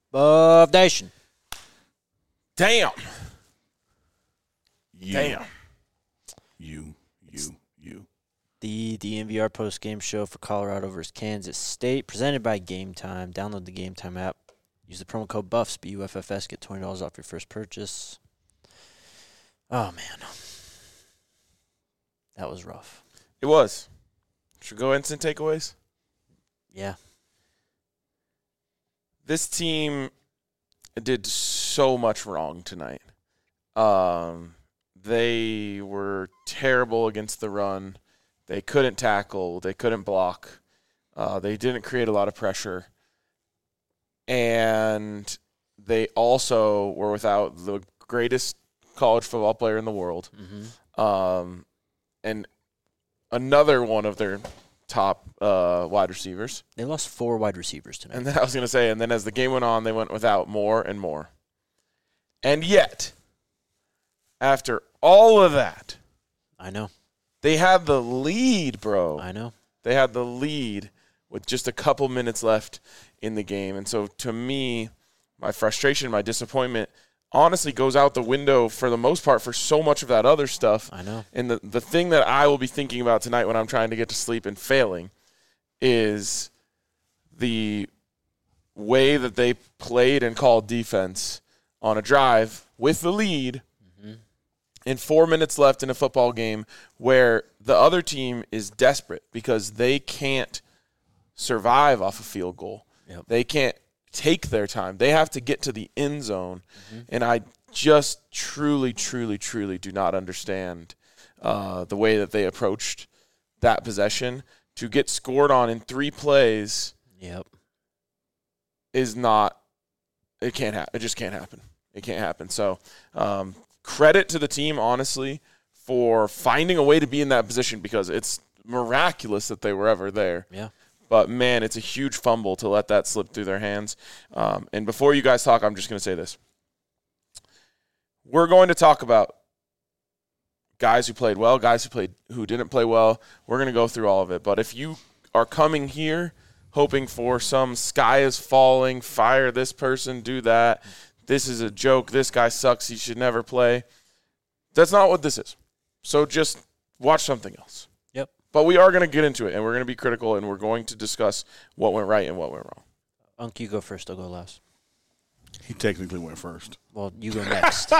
Buff Nation. Damn. You. The DNVR postgame show for Colorado versus Kansas State, presented by Game Time. Download the Game Time app. Use the promo code BUFFS, BUFFS, get $20 off your first purchase. Oh, man. That was rough. It was. Should we go instant takeaways? Yeah. This team did so much wrong tonight. They were terrible against the run. They couldn't tackle. They couldn't block. They didn't create a lot of pressure. And they also were without the greatest college football player in the world. Mm-hmm. And another one of their top wide receivers. They lost 4 wide receivers tonight. And then I was going to say, and then as the game went on, they went without more and more. And yet, after all of that, I know. they had the lead, bro. I know. They had the lead with just a couple minutes left in the game. And so to me, my frustration, my disappointment honestly goes out the window for the most part for so much of that other stuff. I know. And the thing that I will be thinking about tonight when I'm trying to get to sleep and failing is the way that they played and called defense on a drive with the lead and 4 minutes left in a football game where the other team is desperate because they can't survive off a field goal. Yep. They can't take their time. They have to get to the end zone. And I just truly, truly, truly do not understand the way that they approached that possession. To get scored on in 3 plays Yep. is not – it can't happen. It just can't happen. It can't happen. So credit to the team, honestly, for finding a way to be in that position because it's miraculous that they were ever there. Yeah. But, man, it's a huge fumble to let that slip through their hands. And before you guys talk, I'm just going to say this. We're going to talk about guys who played well, guys who didn't play well. We're going to go through all of it. But if you are coming here hoping for some sky is falling, fire this person, do that, this is a joke, this guy sucks, he should never play, that's not what this is. So just watch something else. Yep. But we are going to get into it, and we're going to be critical, and we're going to discuss what went right and what went wrong. Unc, you go first. I'll go last. He technically went first. Well, you go next.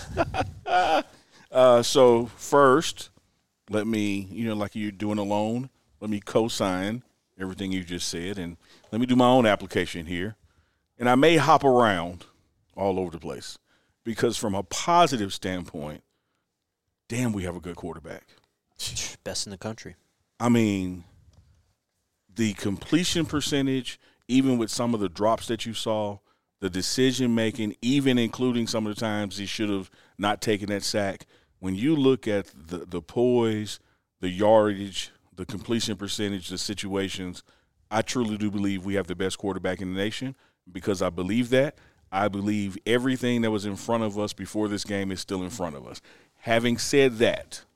So first, let me, like you're doing alone, let me co-sign everything you just said, and let me do my own application here. And I may hop around all over the place because from a positive standpoint, damn, we have a good quarterback. Best in the country. I mean, the completion percentage, even with some of the drops that you saw, the decision-making, even including some of the times he should have not taken that sack, when you look at the poise, the yardage, the completion percentage, the situations, I truly do believe we have the best quarterback in the nation because I believe that. I believe everything that was in front of us before this game is still in front of us. Having said that,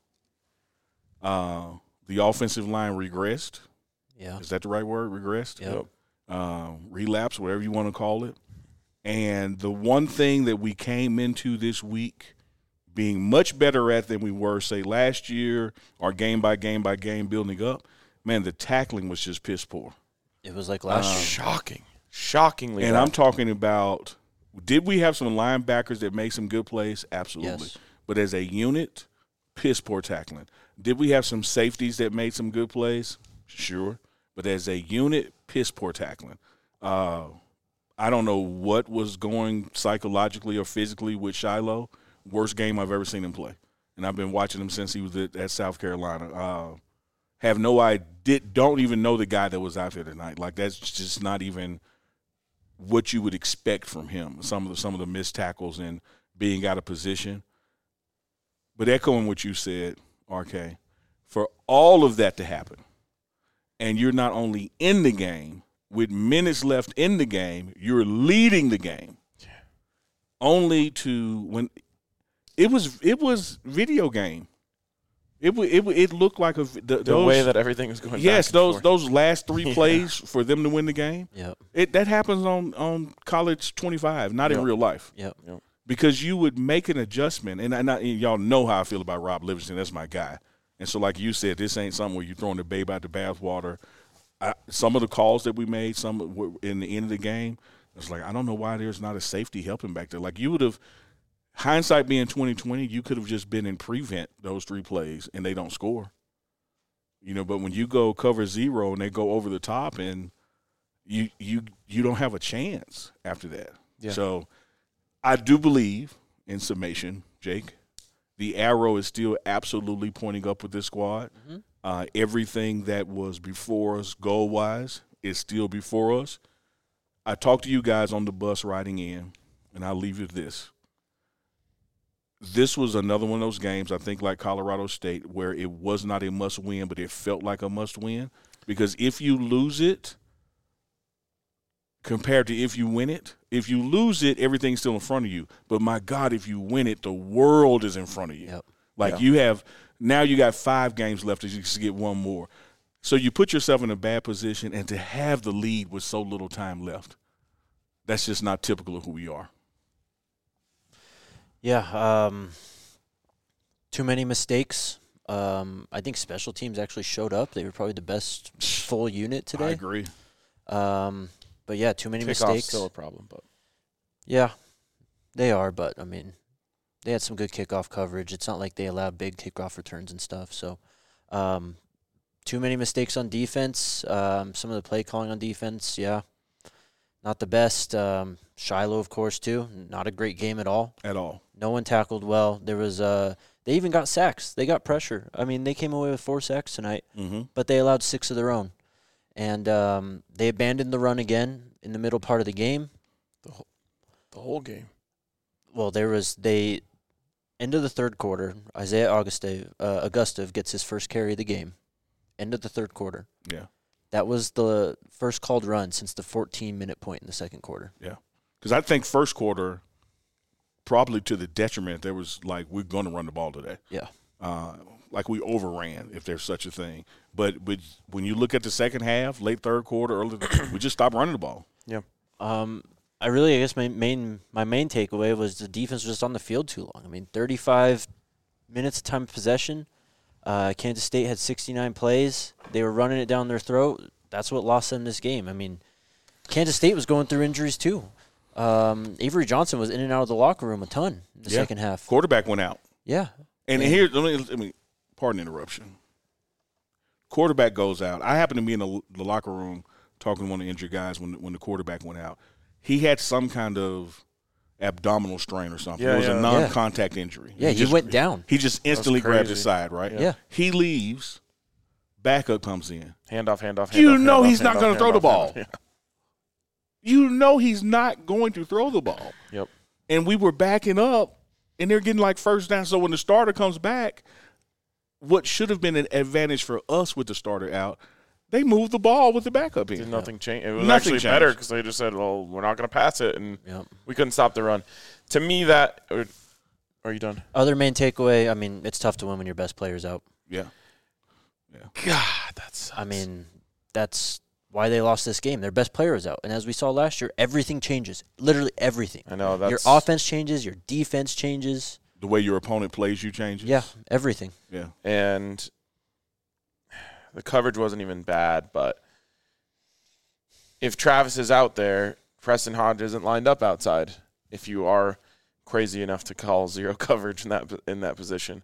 the offensive line regressed. Yeah. Is that the right word? Regressed? Yep. Relapse, whatever you want to call it. And the one thing that we came into this week being much better at than we were, say, last year or game by game by game building up, man, the tackling was just piss poor. It was like last year. Shocking. Shockingly And bad. I'm talking about, did we have some linebackers that made some good plays? Absolutely. Yes. But as a unit, piss poor tackling. Did we have some safeties that made some good plays? Sure. But as a unit, piss poor tackling. I don't know what was going psychologically or physically with Shiloh. Worst game I've ever seen him play. And I've been watching him since he was at South Carolina. Have no idea, don't even know the guy that was out there tonight. Like, that's just not even what you would expect from him. Some of the missed tackles and being out of position. But echoing what you said, RK, for all of that to happen, and you're not only in the game, with minutes left in the game, you're leading the game. Yeah. Only to when it was video game. It looked like the way that everything was going. Yes, back and forth. those last 3 plays for them to win the game. Yep. That happens on College 25, not in real life. Yep. Because you would make an adjustment, and y'all know how I feel about Rob Livingston. That's my guy. And so, like you said, this ain't something where you're throwing the babe out the bathwater. Some of the calls that we made, some were in the end of the game, it's like I don't know why there's not a safety helping back there. Like you would have, hindsight being 2020, you could have just been in prevent those 3 plays and they don't score. But when you go cover 0 and they go over the top, and you don't have a chance after that. Yeah. So I do believe, in summation, Jake, the arrow is still absolutely pointing up with this squad. Mm-hmm. Everything that was before us goal-wise is still before us. I talked to you guys on the bus riding in, and I'll leave you with this. This was another one of those games, I think, like Colorado State, where it was not a must-win, but it felt like a must-win. Because if you lose it, compared to if you win it, if you lose it, everything's still in front of you. But, my God, if you win it, the world is in front of you. Yep. Like you got 5 games left as you can get one more. So you put yourself in a bad position, and to have the lead with so little time left, that's just not typical of who we are. Yeah, too many mistakes. I think special teams actually showed up. They were probably the best full unit today. I agree. But, yeah, too many Kickoff's mistakes. still a problem, but Yeah, they are. But, I mean, they had some good kickoff coverage. It's not like they allowed big kickoff returns and stuff. So, too many mistakes on defense. Some of the play calling on defense, yeah, not the best. Shiloh, of course, too. Not a great game at all. At all. No one tackled well. There was they even got sacks. They got pressure. I mean, they came away with 4 sacks tonight, but they allowed 6 of their own. And they abandoned the run again in the middle part of the game. the whole game. Well, end of the third quarter, Isaiah Augustave gets his first carry of the game. End of the third quarter. Yeah. That was the first called run since the 14-minute point in the second quarter. Yeah. Because I think first quarter, probably to the detriment, there was like, we're going to run the ball today. Yeah. Like we overran, if there's such a thing. But when you look at the second half, late third quarter, early, we just stopped running the ball. Yeah. I guess my main takeaway was the defense was just on the field too long. I mean, 35 minutes of time of possession. Kansas State had 69 plays. They were running it down their throat. That's what lost them this game. I mean, Kansas State was going through injuries too. Avery Johnson was in and out of the locker room a ton in the second half. Quarterback went out. Yeah. And here, let me pardon the interruption. Quarterback goes out. I happened to be in the locker room talking to one of the injured guys when the quarterback went out. He had some kind of abdominal strain or something. It was a non-contact injury. Yeah, he went down. He just instantly grabbed his side, right? Yeah. He leaves. Backup comes in. Handoff. He's not going to throw the ball. Yeah. You know he's not going to throw the ball. Yep. And we were backing up, and they're getting like first down. So when the starter comes back, what should have been an advantage for us with the starter out, they moved the ball with the backup in. Nothing changed. It was actually better because they just said, well, we're not going to pass it, and we couldn't stop the run. To me, that – are you done? Other main takeaway, I mean, it's tough to win when your best player's out. Yeah. God, that sucks. I mean, that's why they lost this game. Their best player is out. And as we saw last year, everything changes. Literally everything. I know. Your offense changes. Your defense changes. The way your opponent plays you changes. Yeah, everything. Yeah. And the coverage wasn't even bad, but if Travis is out there, Preston Hodge isn't lined up outside. If you are crazy enough to call zero coverage in that position,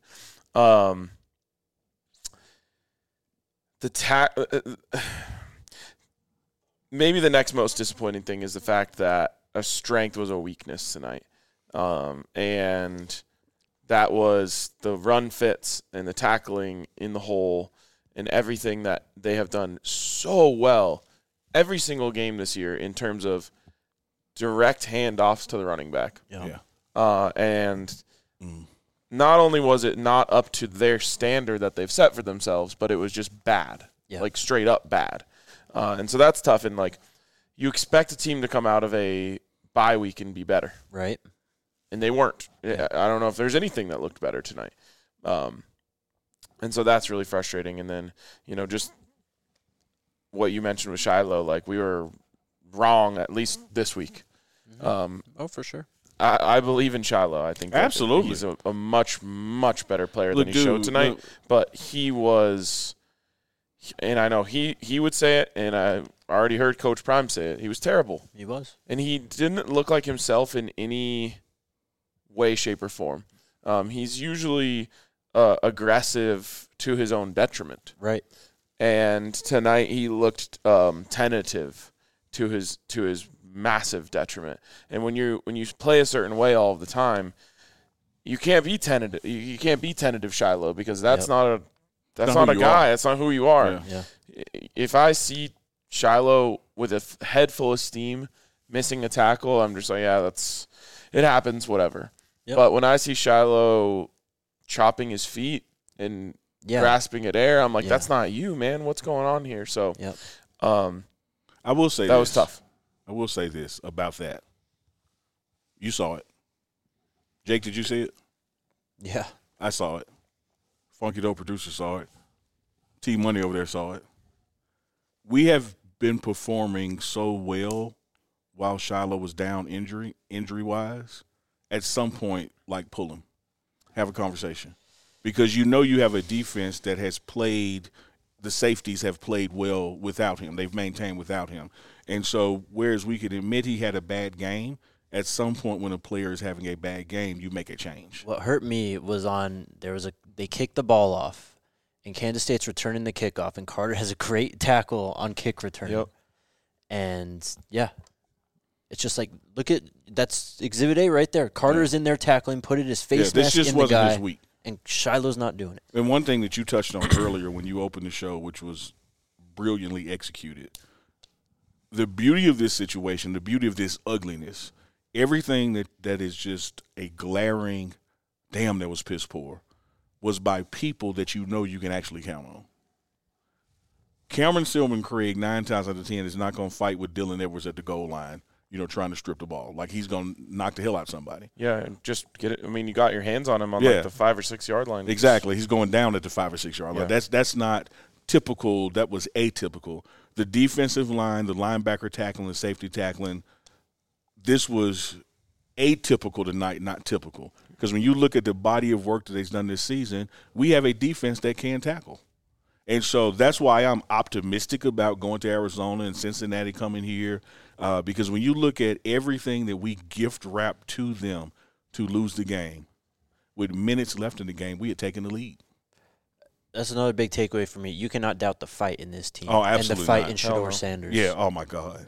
maybe the next most disappointing thing is the fact that a strength was a weakness tonight, and that was the run fits and the tackling in the hole and everything that they have done so well every single game this year in terms of direct handoffs to the running back. Yeah. Not only was it not up to their standard that they've set for themselves, but it was just bad, like straight up bad. And so that's tough. And like, you expect a team to come out of a bye week and be better, right? And they weren't. I don't know if there's anything that looked better tonight. And And so that's really frustrating. And then, just what you mentioned with Shiloh, like we were wrong at least this week. Oh, for sure. I believe in Shiloh. I think that Absolutely. he's a much, much better player than he showed tonight. But he was, and I know he would say it, and I already heard Coach Prime say it. He was terrible. He was. And he didn't look like himself in any way, shape, or form. He's usually aggressive to his own detriment. Right. And tonight he looked tentative to his massive detriment. And when you play a certain way all of the time, you can't be tentative. You can't be tentative, Shiloh, because that's not a guy. That's not who you are. Yeah. If I see Shiloh with a head full of steam, missing a tackle, I'm just like, yeah, it happens, whatever. Yep. But when I see Shiloh chopping his feet and grasping at air, I'm like, that's not you, man. What's going on here? So, I will say that was tough. I will say this about that. You saw it. Jake, did you see it? Yeah. I saw it. Funky Dope producer saw it. T Money over there saw it. We have been performing so well while Shiloh was down injury-wise. At some point, like, pull him. Have a conversation. Because you have a defense that has played – the safeties have played well without him. They've maintained without him. And so whereas we could admit he had a bad game, at some point when a player is having a bad game, you make a change. What hurt me was they kicked the ball off, and Kansas State's returning the kickoff, and Carter has a great tackle on kick return. Yep. And, it's just like, that's Exhibit A right there. Carter's in there tackling, put his face mask in the guy. This just wasn't his week. And Shiloh's not doing it. And one thing that you touched on earlier when you opened the show, which was brilliantly executed, the beauty of this situation, the beauty of this ugliness, everything that is just a glaring, damn, that was piss poor, was by people that you can actually count on. Cameron Silverman Craig, 9 times out of 10, is not going to fight with Dylan Edwards at the goal line, trying to strip the ball. Like, he's going to knock the hell out of somebody. Yeah, and just get it. I mean, you got your hands on him on like the 5 or 6 yard line. Exactly. He's going down at the 5 or 6 yard line. That's not typical. That was atypical. The defensive line, the linebacker tackling, the safety tackling, this was atypical tonight, not typical. Because when you look at the body of work that they've done this season, we have a defense that can tackle. And so that's why I'm optimistic about going to Arizona and Cincinnati coming here, because when you look at everything that we gift wrap to them to lose the game, with minutes left in the game, we had taken the lead. That's another big takeaway for me. You cannot doubt the fight in this team. Oh, absolutely. And the fight not. in Shedeur Sanders. Yeah, oh, my God.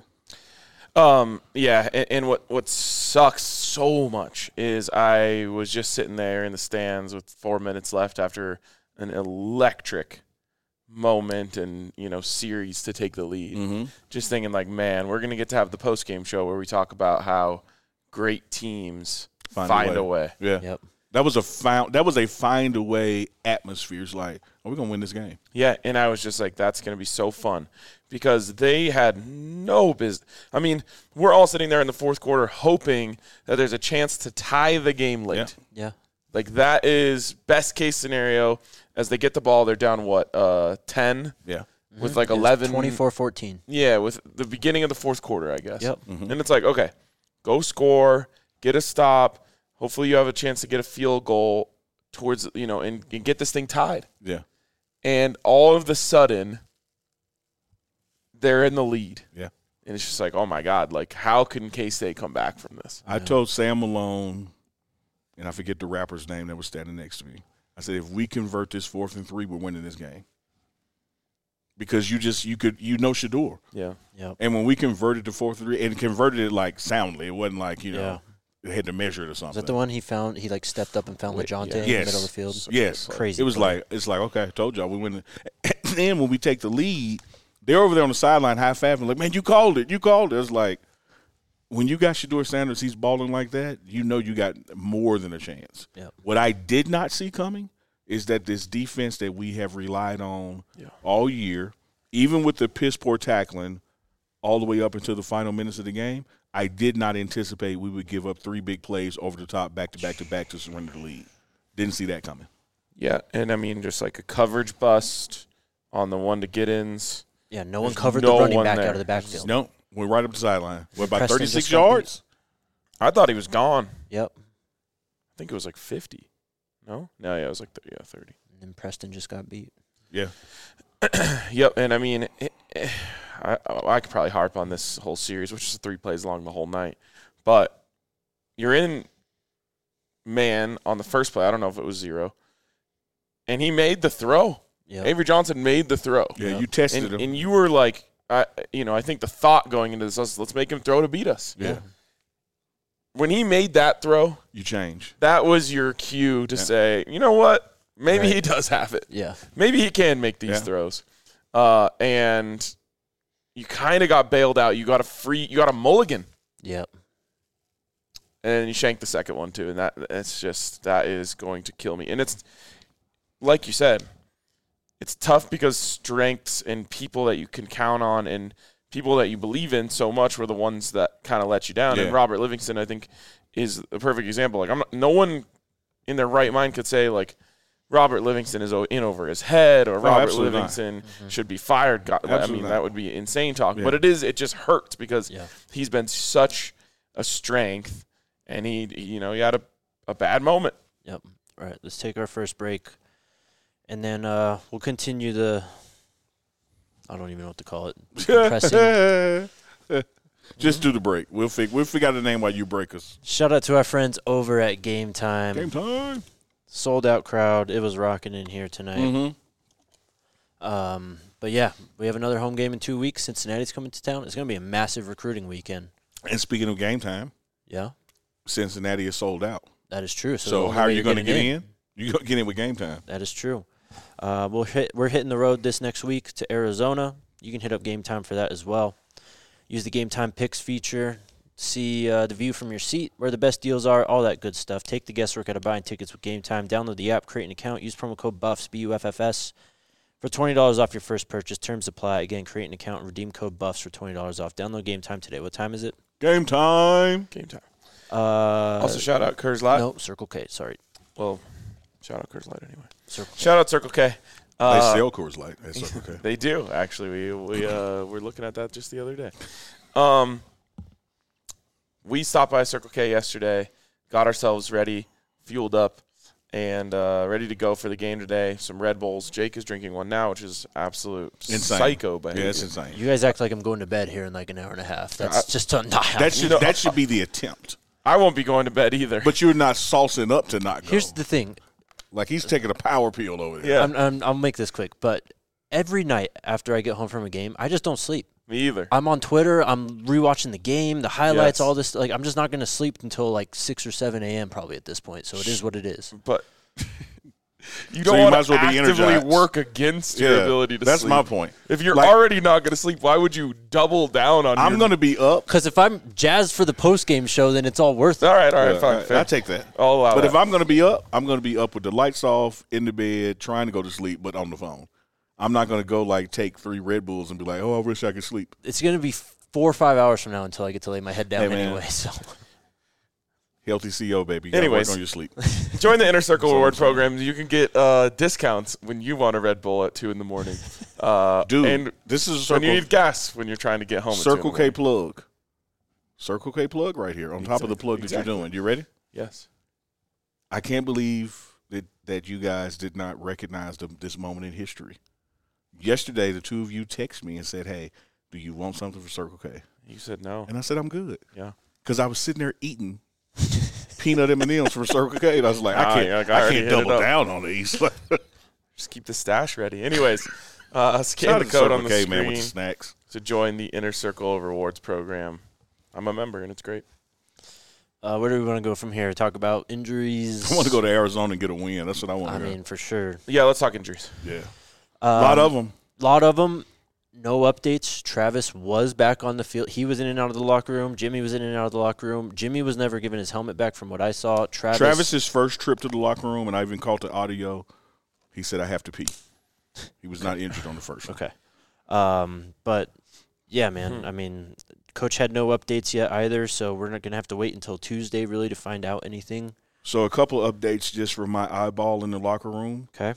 And what sucks so much is I was just sitting there in the stands with 4 minutes left after an electric moment and series to take the lead. Mm-hmm. Just thinking like, man, we're gonna get to have the post game show where we talk about how great teams find a way. Yeah. Yep. That was a find a way atmosphere. It's like, are we gonna win this game? Yeah, and I was just like, that's gonna be so fun because they had no business. I mean, we're all sitting there in the fourth quarter hoping that there's a chance to tie the game late. Yeah. Like that is best case scenario. As they get the ball, they're down 10? Yeah. With like 11. 24-14. Yeah, with the beginning of the fourth quarter, I guess. Yep. Mm-hmm. And it's like, okay, go score, get a stop. Hopefully you have a chance to get a field goal towards, and get this thing tied. Yeah. And all of a sudden, they're in the lead. Yeah. And it's just like, oh, my God, like how can K-State come back from this? I told Sam Malone, and I forget the rapper's name that was standing next to me, I said, if we convert this 4th and 3, we're winning this game. Because Shedeur. Yeah. Yep. And when we converted to 4th and 3, and converted it like soundly, it wasn't like, they had to measure it or something. Is that the one he found? He stepped up and found LeJohntay in the middle of the field? Yes. Crazy. It was it's like, okay, I told y'all we win. And then when we take the lead, they're over there on the sideline high-fiving, like, man, you called it. It's like, when you got Shedeur Sanders, he's balling like that, you got more than a chance. Yep. What I did not see coming is that this defense that we have relied on all year, even with the piss-poor tackling all the way up into the final minutes of the game, I did not anticipate we would give up 3 big plays over the top back-to-back-to-back to surrender the lead. Didn't see that coming. Yeah, and I mean, just like a coverage bust on the one to get-ins. Yeah, no one There's covered no the running one back there. out of the backfield. No, we're right up the sideline. What, about Preston 36 just got yards? I thought he was gone. Yep. I think it was like 50. No? No, yeah, it was like 30. And then Preston just got beat. Yeah. Yep, and I mean, I could probably harp on this whole series, which is 3 plays long the whole night. But you're in man on the first play. I don't know if it was 0. And he made the throw. Yep. Avery Johnson made the throw. Yeah, Yep. you tested him. And you were like, I think the thought going into this was, let's make him throw to beat us. Yeah. When he made that throw, You change. that was your cue to say, you know what? Maybe Right. he does have it. Yeah. Maybe he can make these Yeah. throws. And you kind of got bailed out. You got a mulligan. Yep. And you shanked the second one too. And that is going to kill me. And it's, like you said, it's tough because strengths and people that you can count on and people that you believe in so much were the ones that kind of let you down. Yeah. And Robert Livingston, I think, is a perfect example. Like, no one in their right mind could say, like, Robert Livingston is in over his head or Robert absolutely Livingston should be fired. God, I Absolutely mean, not. that would be insane talk. Yeah. But it just hurts because Yeah. he's been such a strength, and he had a bad moment. Yep. All right, let's take our first break. And then we'll continue I don't even know what to call it. Compressing. Just do the break. We'll figure out the name while you break us. Shout out to our friends over at Game Time. Game time. Sold out crowd. It was rocking in here tonight. Mm-hmm. But yeah, we have another home game in 2 weeks. Cincinnati's coming to town. It's going to be a massive recruiting weekend. And speaking of game time, Yeah, Cincinnati is sold out. that is true. So the only how are way you to going to it get in? You're going to get in with game time. That is true. We're hitting the road this next week to Arizona. You can hit up Game Time for that as well. Use the Game Time Picks feature. See the view from your seat, where the best deals are, all that good stuff. Take the guesswork out of buying tickets with Game Time. Download the app, create an account, use promo code BUFFS, BUFFS, for $20 off your first purchase. Terms apply. Again, create an account and redeem code BUFFS for $20 off. Download Game Time today. What time is it? Game time. Game time. Also, Also, shout out Coors Light. No, Circle K. Sorry. Well, shout out Coors Light anyway. Circle K. Shout out Circle K. They sell Coors Light. That's okay. They do, actually. We were looking at that just the other day. We stopped by Circle K yesterday, got ourselves ready, fueled up, and ready to go for the game today. Some Red Bulls. Jake is drinking one now, which is absolute Insane. psycho behavior. Yeah, it's insane. You guys act like I'm going to bed here in like an hour and a half. That's just not happening. That should be the attempt. I won't be going to bed either. But you're not saucing up to not go. Here's the thing. Like he's taking a power pill over there. Yeah. I'll make this quick, but every night after I get home from a game, I just don't sleep. Me either. I'm on Twitter. I'm rewatching the game, the highlights, Yes. all this. Like, I'm just not going to sleep until like 6 or 7 a.m. probably at this point. So it is what it is. But you So don't you want might as to well be actively energized. work against your ability to that's sleep. my point. If you're Like- already not going to sleep, why would you double down on I'm going to be up. Because if I'm jazzed for the post game show, then it's all worth it. All right, fine. I take that. I'll allow But that. if I'm going to be up, I'm going to be up with the lights off, in the bed, trying to go to sleep, but on the phone. I'm not going to go like take 3 Red Bulls and be like, oh, I wish I could sleep. It's going to be 4 or 5 hours from now until I get to lay my head down Hey, man. anyway. So Healthy CO, baby. You gotta Anyways. work on your sleep. Join the Inner Circle Reward Program. You can get discounts when you want a Red Bull at 2 in the morning. Dude, and this is a when you Circle, need gas when you're trying to get home. at 2 in the Circle K morning. plug. Circle K plug right here on top of the plug that you're doing. You ready? Yes. I can't believe that you guys did not recognize this moment in history. Yesterday, the two of you texted me and said, hey, do you want something for Circle K? You said no. And I said, I'm good. Yeah. Because I was sitting there eating peanut M&Ms from Circle K. And I was like, Ah, I yeah, I can't already hit it double up. down on these. Just keep the stash ready. Anyways, Shout scan out the to code on Circle the K, man, with the screen snacks. to join the Inner Circle Rewards Program. I'm a member, and it's great. where do we want to go from here? Talk about injuries. I want to go to Arizona and get a win. That's what I want I to mean, for sure. Yeah, let's talk injuries. Yeah. A lot of them. lot of them. No updates. Travis was back on the field. He was in and out of the locker room. Jimmy was in and out of the locker room. Jimmy was never given his helmet back from what I saw. Travis's first trip to the locker room, and I even caught the audio, he said, I have to pee. He was not injured on the first one. Okay. But, yeah, man, I mean, Coach had no updates yet either, so we're not going to have to wait until Tuesday really to find out anything. So a couple of updates just for my eyeball in the locker room. Okay.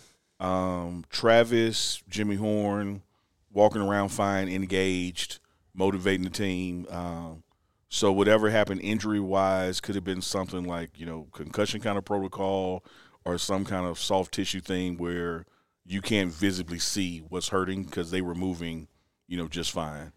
Travis, Jimmy Horn, walking around fine, engaged, motivating the team. So whatever happened injury-wise could have been something like, concussion kind of protocol or some kind of soft tissue thing where you can't visibly see what's hurting because they were moving, just fine.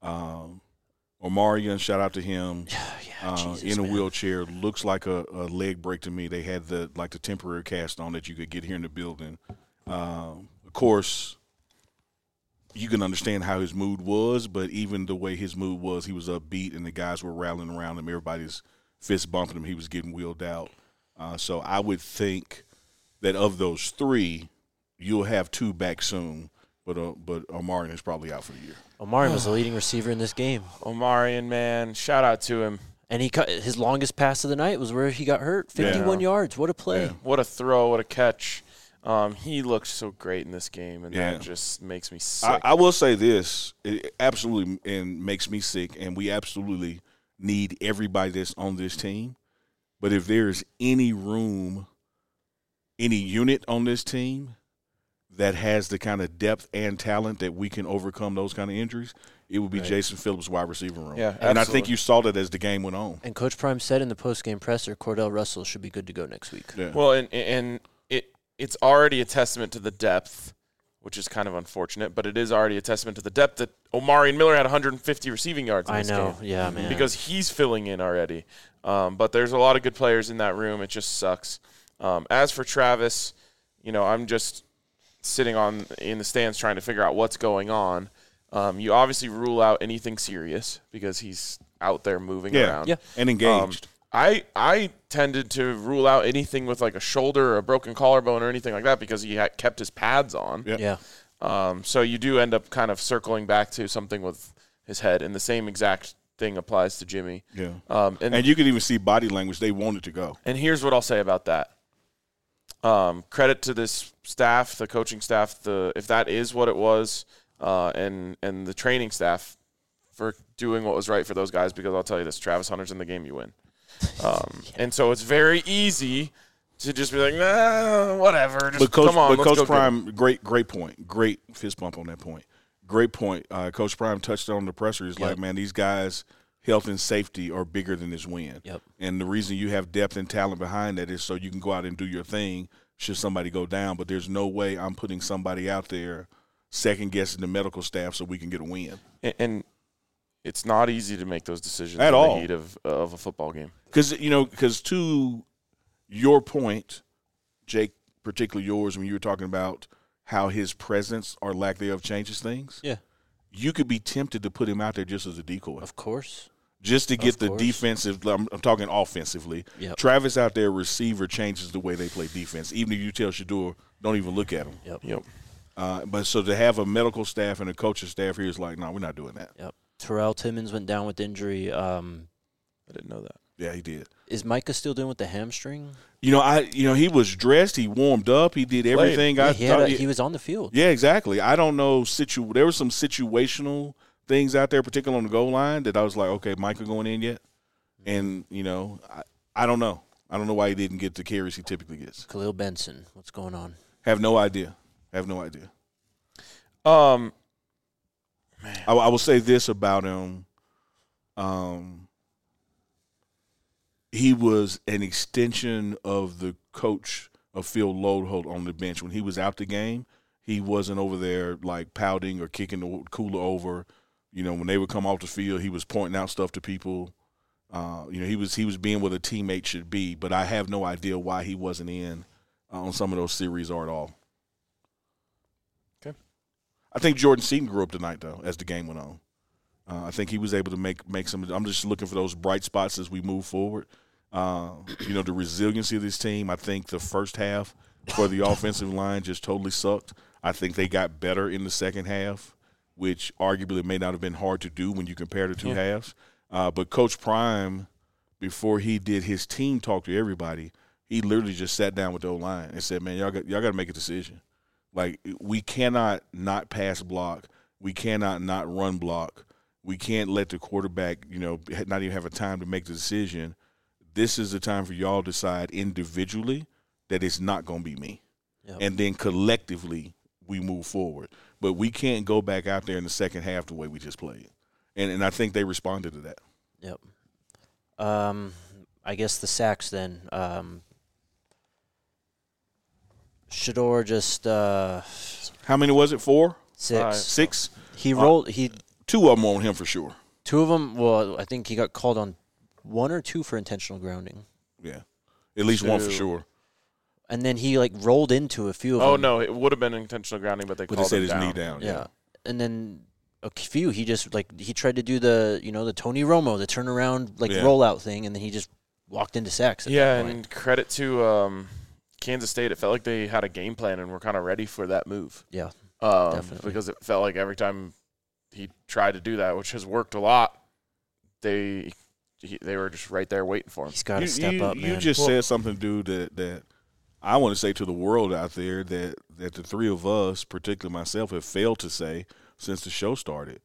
Omarion, shout out to him, in a wheelchair. Looks like a leg break to me. They had the temporary cast on that you could get here in the building. Of course, you can understand how his mood was, but even the way his mood was, he was upbeat, and the guys were rallying around him. Everybody's fist bumping him. He was getting wheeled out. So I would think that of those three, you'll have two back soon, but Omarion is probably out for the year. Omarion was the leading receiver in this game. Omarion, man, shout out to him. And his longest pass of the night was where he got hurt, 51 yards. What a play. Yeah. What a throw, what a catch. He looked so great in this game, and that just makes me sick. I will say this. It absolutely makes me sick, and we absolutely need everybody that's on this team. But if there's any room, any unit on this team that has the kind of depth and talent that we can overcome those kind of injuries, it would be Jason Phillips' wide receiver room. Yeah, and I think you saw that as the game went on. And Coach Prime said in the post-game presser, Cordell Russell should be good to go next week. Yeah. Well, and it's already a testament to the depth, which is kind of unfortunate, but it is already a testament to the depth that Omarion Miller had 150 receiving yards in this game. Yeah, man. Because he's filling in already. But there's a lot of good players in that room. It just sucks. As for Travis, I'm just sitting in the stands trying to figure out what's going on. You obviously rule out anything serious because he's out there moving around. Yeah, and engaged. I tended to rule out anything with like a shoulder or a broken collarbone or anything like that because he had kept his pads on. Yeah. So you do end up kind of circling back to something with his head, and the same exact thing applies to Jimmy. Yeah. And you can even see body language. They wanted to go. And here's what I'll say about that. Credit to this staff, the coaching staff, if that is what it was, and the training staff for doing what was right for those guys, because I'll tell you this, Travis Hunter's in the game, you win. And so it's very easy to just be like, nah, whatever. Just come on, let's Coach go Prime, great point. Great fist bump on that point. Great point. Coach Prime touched on the presser. He's like, man, these guys' health and safety are bigger than this win. Yep. And the reason you have depth and talent behind that is so you can go out and do your thing should somebody go down. But there's no way I'm putting somebody out there second-guessing the medical staff so we can get a win. And it's not easy to make those decisions at in all the heat of a football game. Because to your point, Jake, particularly yours, when you were talking about how his presence or lack thereof changes things, you could be tempted to put him out there just as a decoy. Of course. Just to get the defensive – I'm talking offensively. Yep. Travis out there, receiver, changes the way they play defense. Even if you tell Shedeur, don't even look at him. Yep. But so to have a medical staff and a coaching staff here is like, no, we're not doing that. Yep. Terrell Timmons went down with injury. I didn't know that. Yeah, he did. Is Micah still dealing with the hamstring? He was dressed. He warmed up. He did everything. He was on the field. Yeah, exactly. I don't know. There were some situational things out there, particularly on the goal line, that I was like, okay, Micah going in yet? And, I don't know. I don't know why he didn't get the carries he typically gets. Khalil Benson, what's going on? Have no idea. Man. I will say this about him. He was an extension of the coach of Phil Lodeholt on the bench. When he was out the game, he wasn't over there like pouting or kicking the cooler over. When they would come off the field, he was pointing out stuff to people. He was being what a teammate should be. But I have no idea why he wasn't in on some of those series or at all. Okay. I think Jordan Seaton grew up tonight, though, as the game went on. I think he was able to make some – I'm just looking for those bright spots as we move forward. The resiliency of this team, I think the first half for the offensive line just totally sucked. I think they got better in the second half, which arguably may not have been hard to do when you compare the two halves. But Coach Prime, before he did his team talk to everybody, he literally just sat down with the O-line and said, man, y'all got to make a decision. Like, we cannot not pass block. We cannot not run block. We can't let the quarterback, not even have a time to make the decision. this is the time for y'all to decide individually that it's not going to be me. Yep. And then collectively we move forward. But we can't go back out there in the second half the way we just played. And I think they responded to that. Yep. I guess the sacks then. Shedeur just How many was it? 4? 6. 6? He rolled. 2 of them on him for sure. 2 of them. Well, I think he got called on 1 or 2 for intentional grounding. Yeah, at least 1 for sure. And then he rolled into a few of them. Oh no, it would have been intentional grounding, but they called said him his down. knee down. Yeah. And then a few he just he tried to do the the Tony Romo, the turnaround rollout thing, and then he just walked into sacks. At that point. And credit to Kansas State. It felt like they had a game plan and were kind of ready for that move. Yeah, definitely. Because it felt like every time he tried to do that, which has worked a lot, they were just right there waiting for him. He's got to step up, man. You just said something, dude, that I want to say to the world out there that the three of us, particularly myself, have failed to say since the show started.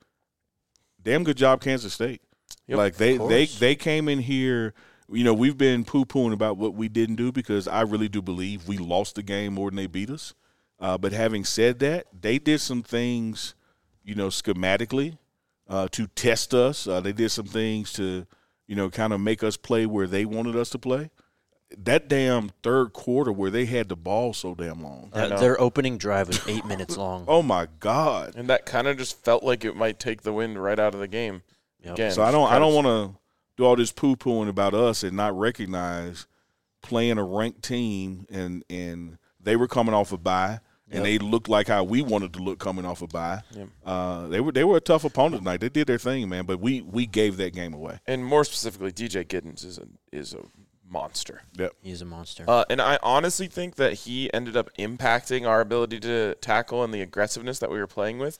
Damn good job, Kansas State. Yep, they came in here. We've been poo-pooing about what we didn't do because I really do believe we lost the game more than they beat us. But having said that, they did some things, schematically to test us. They did some things to, kind of make us play where they wanted us to play. That damn third quarter where they had the ball so damn long. Their opening drive was 8 minutes long. Oh, my God. And that kind of just felt like it might take the wind right out of the game. Yep. Again, so I don't want to do all this poo-pooing about us and not recognize playing a ranked team and they were coming off a bye and they looked like how we wanted to look coming off a bye. Yep. They were a tough opponent tonight. They did their thing, man, but we gave that game away. And more specifically, DJ Giddens is a monster. Yep. He's a monster. And I honestly think that he ended up impacting our ability to tackle and the aggressiveness that we were playing with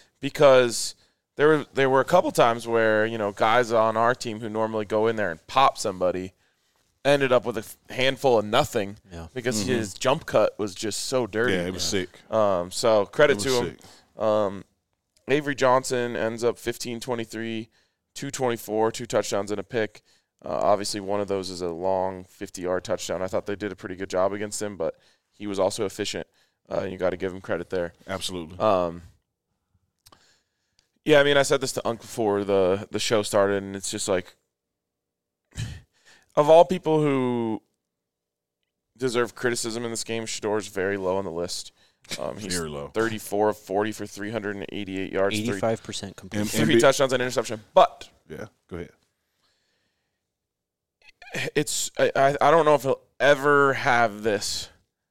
because there were a couple times where, guys on our team who normally go in there and pop somebody ended up with a handful of nothing because his jump cut was just so dirty. Yeah, it was sick. So credit to him. Avery Johnson ends up 15-23, 224, 2 touchdowns and a pick. Obviously, one of those is a long 50-yard touchdown. I thought they did a pretty good job against him, but he was also efficient. You got to give him credit there. Absolutely. Yeah, I mean, I said this to Unc before the show started, and it's just like, of all people who deserve criticism in this game, Shedeur's very low on the list. He's very low. 34 of 40 for 388 yards. 85% complete. 3 touchdowns and interception. But yeah, go ahead. I don't know if he'll ever have this,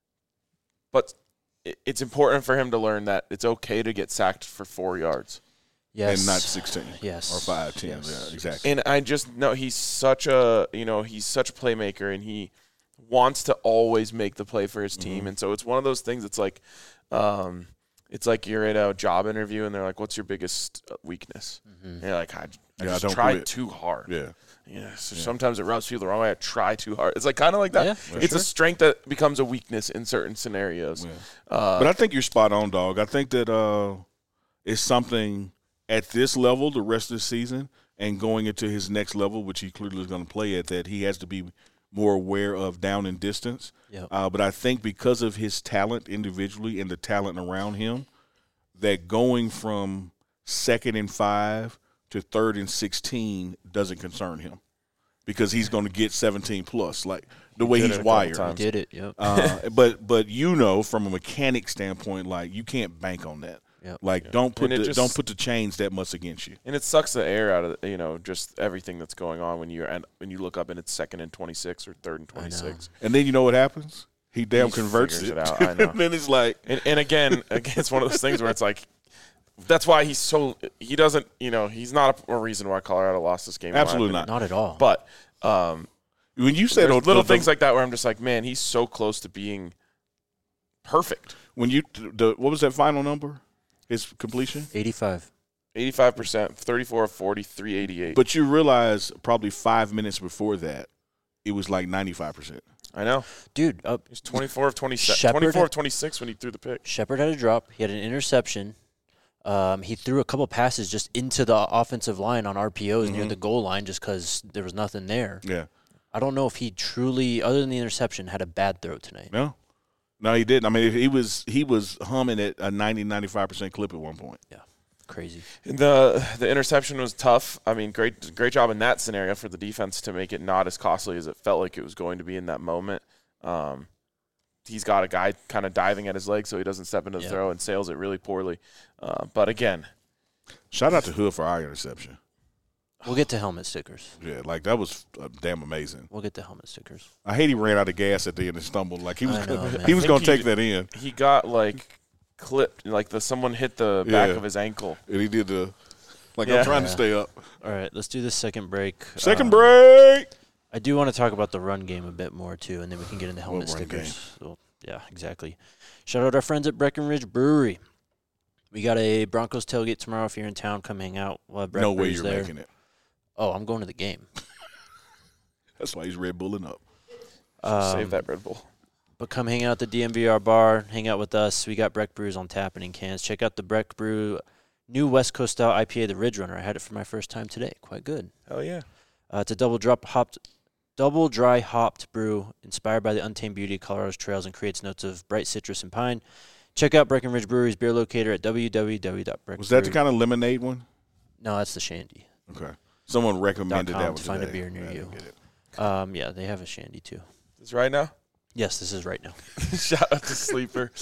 but it's important for him to learn that it's okay to get sacked for 4 yards. Yes. And not 16. Yes. Or 5, 10. Yes. Yeah, exactly. And I just know he's such a playmaker, and he wants to always make the play for his team. And so it's one of those things that's like, it's like you're in a job interview and they're like, what's your biggest weakness? And you're like, I just tried too hard. Yeah. So sometimes it rubs people the wrong way. I try too hard. It's like kind of like that. Yeah, it's a strength that becomes a weakness in certain scenarios. Yeah. But I think you're spot on, dog. I think that it's something at this level the rest of the season and going into his next level, which he clearly is going to play at, that he has to be more aware of down and distance. Yep. But I think because of his talent individually and the talent around him, that going from 2nd and 5 to 3rd and 16 doesn't concern him because he's going to get 17 plus, like the way he's wired. He did it, yep. But from a mechanic standpoint, like you can't bank on that. Yep. Like don't put the chains that much against you. And it sucks the air out of just everything that's going on when you look up and it's 2nd and 26 or 3rd and 26. And then you know what happens? He converts it out. I know. And then it's like, and again, it's one of those things where it's like, that's why he's not a reason why Colorado lost this game. Absolutely not at all. But when you said little things like that, where I'm just like, man, he's so close to being perfect. When what was that final number? His completion? 85%, 34 of 40, 388. But you realize probably 5 minutes before that, it was like 95%. I know. Dude. He's 24 of 27. 24 of 26 when he threw the pick. Shepard had a drop. He had an interception. He threw a couple passes just into the offensive line on RPOs near the goal line just because there was nothing there. Yeah. I don't know if he truly, other than the interception, had a bad throw tonight. No, he didn't. I mean, he was humming at a 90-95% clip at one point. Yeah, crazy. The interception was tough. I mean, great job in that scenario for the defense to make it not as costly as it felt like it was going to be in that moment. He's got a guy kind of diving at his leg so he doesn't step into the throw and sails it really poorly. But again, shout out to Hood for our interception. We'll get to helmet stickers. Yeah, like that was damn amazing. We'll get to helmet stickers. I hate he ran out of gas at the end and stumbled. Like he was going to take that in. He got like clipped, like someone hit the back of his ankle. And he did I'm trying to stay up. All right, let's do this second break. Second break. I do want to talk about the run game a bit more, too, and then we can get into helmet What run stickers. game? So, yeah, exactly. Shout out our friends at Breckenridge Brewery. We got a Broncos tailgate tomorrow. If you're in town, come hang out. We'll have No way Brews you're there. making it. Oh, I'm going to the game. That's why he's Red Bulling up. Save that Red Bull. But come hang out at the DMVR bar. Hang out with us. We got Breck Brews on tap and in cans. Check out the Breck Brew new West Coast style IPA, the Ridge Runner. I had it for my first time today. Quite good. Hell yeah. It's a double dry hopped brew inspired by the untamed beauty of Colorado's trails and creates notes of bright citrus and pine. Check out Breckenridge Brewery's beer locator at www.breck. Was that the kind of lemonade one? No, that's the Shandy. Okay. Someone recommended that one to find a today. beer near you. Get it. Yeah, they have a Shandy too. Is right now? Yes, this is right now. Shout out to Sleeper.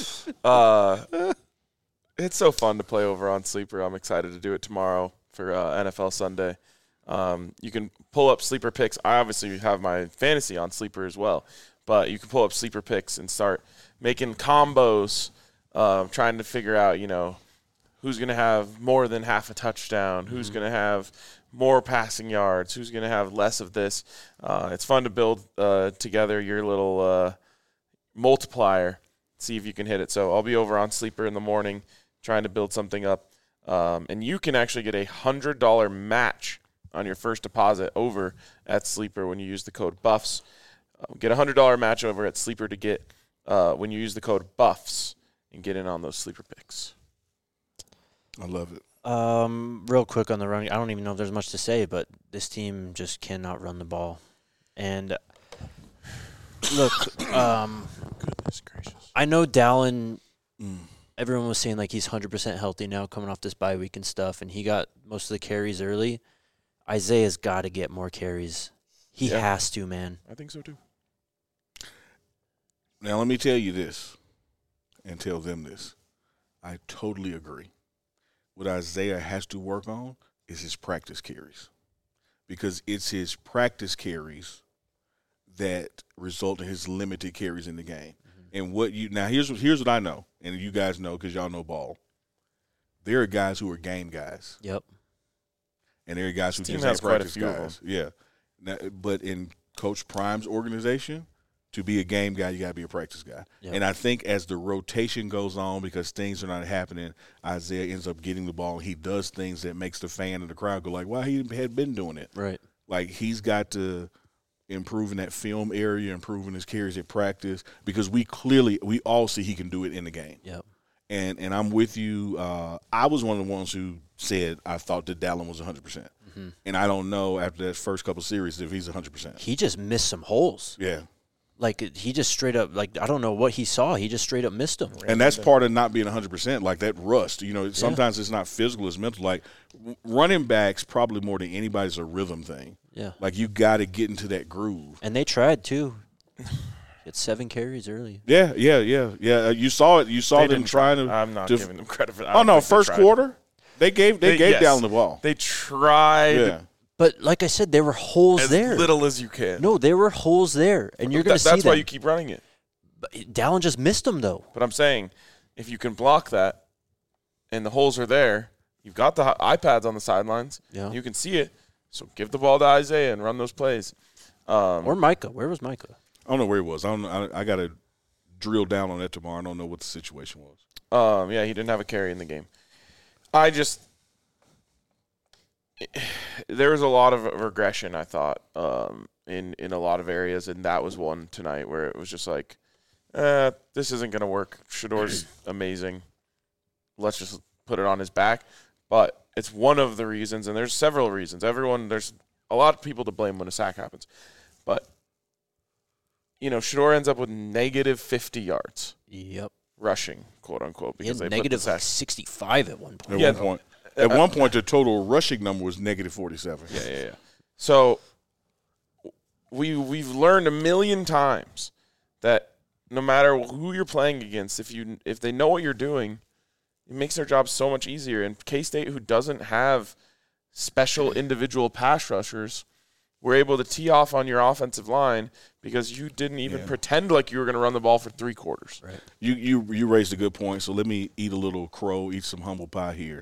It's so fun to play over on Sleeper. I'm excited to do it tomorrow for NFL Sunday. You can pull up Sleeper picks. I obviously have my fantasy on Sleeper as well, but you can pull up Sleeper picks and start making combos, trying to figure out, who's going to have more than half a touchdown, who's going to have more passing yards, who's going to have less of this. It's fun to build together your little multiplier, see if you can hit it. So I'll be over on Sleeper in the morning trying to build something up. And you can actually get a $100 match on your first deposit over at Sleeper when you use the code BUFFS. Get a $100 match over at Sleeper to get when you use the code BUFFS and get in on those Sleeper picks. I love it. Real quick on the run, I don't even know if there's much to say, but this team just cannot run the ball. And look, Goodness gracious. I know Dallin, everyone was saying like he's 100% healthy now coming off this bye week and stuff, and he got most of the carries early. Isaiah's got to get more carries. He has to, man. I think so too. Now, let me tell you this and tell them this. I totally agree. What Isaiah has to work on is his practice carries, because it's his practice carries that result in his limited carries in the game. And here's what I know, and you guys know because y'all know ball. There are guys who are game guys. Yep. And there are guys who just has ain't quite a practice few of guys. Yeah. Now, but in Coach Prime's organization, to be a game guy, you got to be a practice guy. Yep. And I think as the rotation goes on, because things are not happening, Isaiah ends up getting the ball. He does things that makes the fan and the crowd go like, wow, he had been doing it. Right. Like, he's got to improve in that film area, improving his carries at practice, because we all see he can do it in the game. Yep. And I'm with you. I was one of the ones who said I thought that Dallin was 100%. And I don't know after that first couple series if he's 100%. He just missed some holes. Yeah. Like, he just straight up, like, I don't know what he saw. He just straight up missed them. And that's part of not being 100%, like that rust. Sometimes it's not physical, it's mental. Like, running backs probably more than anybody's a rhythm thing. Yeah. Like, you got to get into that groove. And they tried, too. Get 7 carries early. Yeah. You saw it. You saw them trying to. I'm not giving them credit for that. Oh, no, first quarter, they gave yes. Dallin the ball. They tried Yeah. But like I said, there were holes as there. little as you can. No, there were holes there, and you're going to see That's them. why you keep running it. But Dallin just missed them, though. But I'm saying, if you can block that and the holes are there, you've got the iPads on the sidelines. Yeah. You can see it. So give the ball to Isaiah and run those plays. Or Micah. Where was Micah? I don't know where he was. I got to drill down on that tomorrow. I don't know what the situation was. Yeah, he didn't have a carry in the game. There was a lot of regression, I thought, in a lot of areas, and that was one tonight where it was just like, this isn't going to work. Shador's amazing. Let's just put it on his back. But it's one of the reasons, and there's several reasons. There's a lot of people to blame when a sack happens. But Shador ends up with negative 50 yards. Yep. Rushing, quote unquote, He because had they negative put the like 65 at one point. At one point, the total rushing number was negative 47. Yeah. So we've learned a million times that no matter who you're playing against, if they know what you're doing, it makes their job so much easier. And K-State, who doesn't have special individual pass rushers, were able to tee off on your offensive line because you didn't even pretend like you were going to run the ball for 3 quarters. Right. You raised a good point, so let me eat a little crow, eat some humble pie here.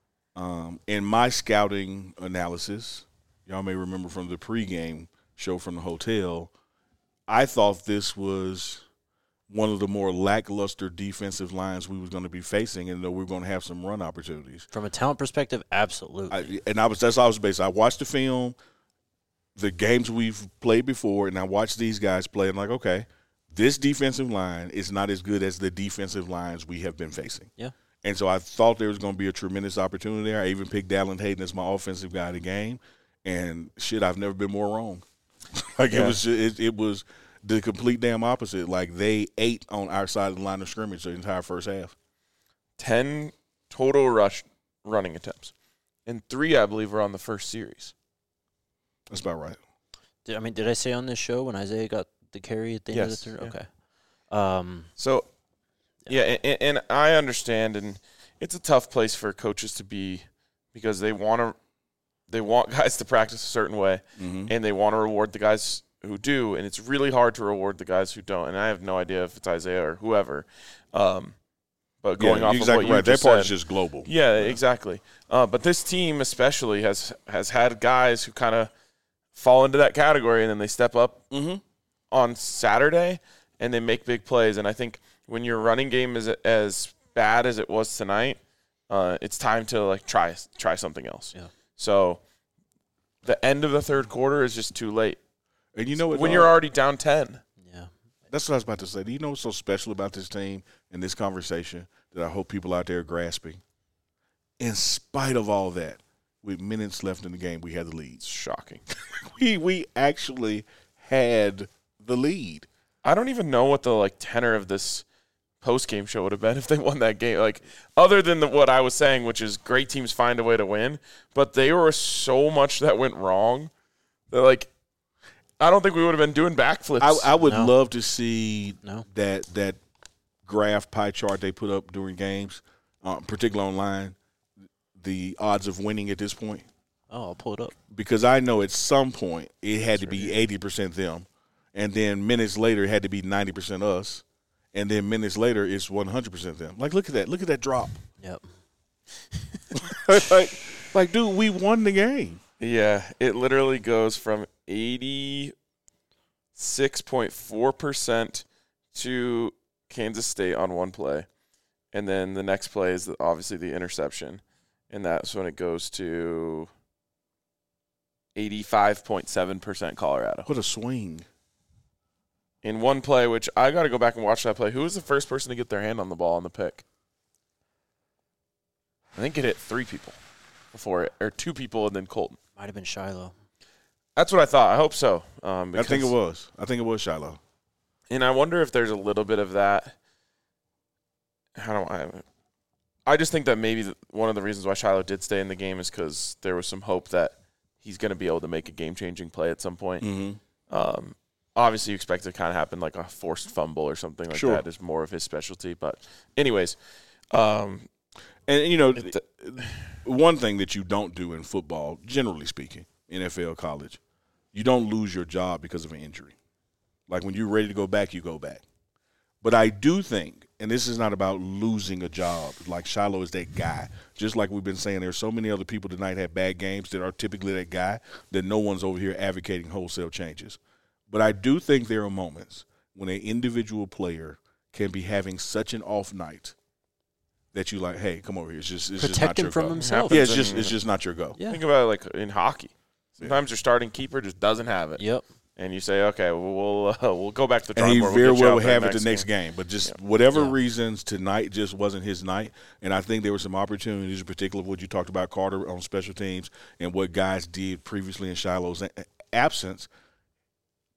In my scouting analysis, y'all may remember from the pregame show from the hotel, I thought this was one of the more lackluster defensive lines we was going to be facing, and that we were going to have some run opportunities. From a talent perspective, absolutely. That's all I was based. I watched the film, the games we've played before, and I watched these guys play. And I'm like, okay, this defensive line is not as good as the defensive lines we have been facing. Yeah. And so I thought there was going to be a tremendous opportunity there. I even picked Dallin Hayden as my offensive guy of the game, and shit, I've never been more wrong. It was the complete damn opposite. Like, they ate on our side of the line of scrimmage the entire first half. 10 total running attempts, and 3, I believe, were on the first series. That's about right. Did I say on this show when Isaiah got the carry at the end of the third? Yeah. Okay. So, and I understand, and it's a tough place for coaches to be because they want guys to practice a certain way, and they want to reward the guys who do, and it's really hard to reward the guys who don't. And I have no idea if it's Isaiah or whoever. But going off exactly of what you that just part said, is just global. Yeah, exactly. But this team especially has had guys who kind of fall into that category, and then they step up on Saturday and they make big plays. And I think when your running game is as bad as it was tonight, it's time to try something else. Yeah. So the end of the third quarter is just too late. And you know what? When you're already down 10. Yeah. That's what I was about to say. Do you know what's so special about this team and this conversation that I hope people out there are grasping? In spite of all that, with minutes left in the game, we had the lead. It's shocking. we actually had the lead. I don't even know what the tenor of this post-game show would have been if they won that game. Other than what I was saying, which is great teams find a way to win, but there was so much that went wrong that I don't think we would have been doing backflips. I would love to see that graph pie chart they put up during games, particularly online, the odds of winning at this point. Oh, I'll pull it up. Because I know at some point it had to be 80% them, and then minutes later it had to be 90% us, and then minutes later it's 100% them. Look at that. Look at that drop. Yep. Dude, we won the game. Yeah, it literally goes from 86.4% to Kansas State on one play. And then the next play is obviously the interception. And that's when it goes to 85.7% Colorado. What a swing. In one play, which I got to go back and watch that play. Who was the first person to get their hand on the ball on the pick? I think it hit 3 people before it, or 2 people and then Colton. Might have been Shiloh. That's what I thought. I hope so. I think it was. I think it was Shiloh. And I wonder if there's a little bit of that. I just think that maybe one of the reasons why Shiloh did stay in the game is because there was some hope that he's going to be able to make a game-changing play at some point. Mm-hmm. Obviously, you expect it to kind of happen like a forced fumble or something like that is more of his specialty. But anyways. One thing that you don't do in football, generally speaking, NFL, college, you don't lose your job because of an injury. When you're ready to go back, you go back. But I do think, and this is not about losing a job, Shiloh is that guy. Just like we've been saying, there's so many other people tonight have bad games that are typically that guy that no one's over here advocating wholesale changes. But I do think there are moments when an individual player can be having such an off night that you hey, come over here. It's just protect him him from go. himself. Yeah, it's just not your go. Yeah. Think about it in hockey. Sometimes your starting keeper just doesn't have it. Yep. And you say, okay, we'll go back to the drawing and board. he very well would have have it the next game. But just whatever reasons, tonight just wasn't his night. And I think there were some opportunities, in particular what you talked about, Carter, on special teams and what guys did previously in Shiloh's absence.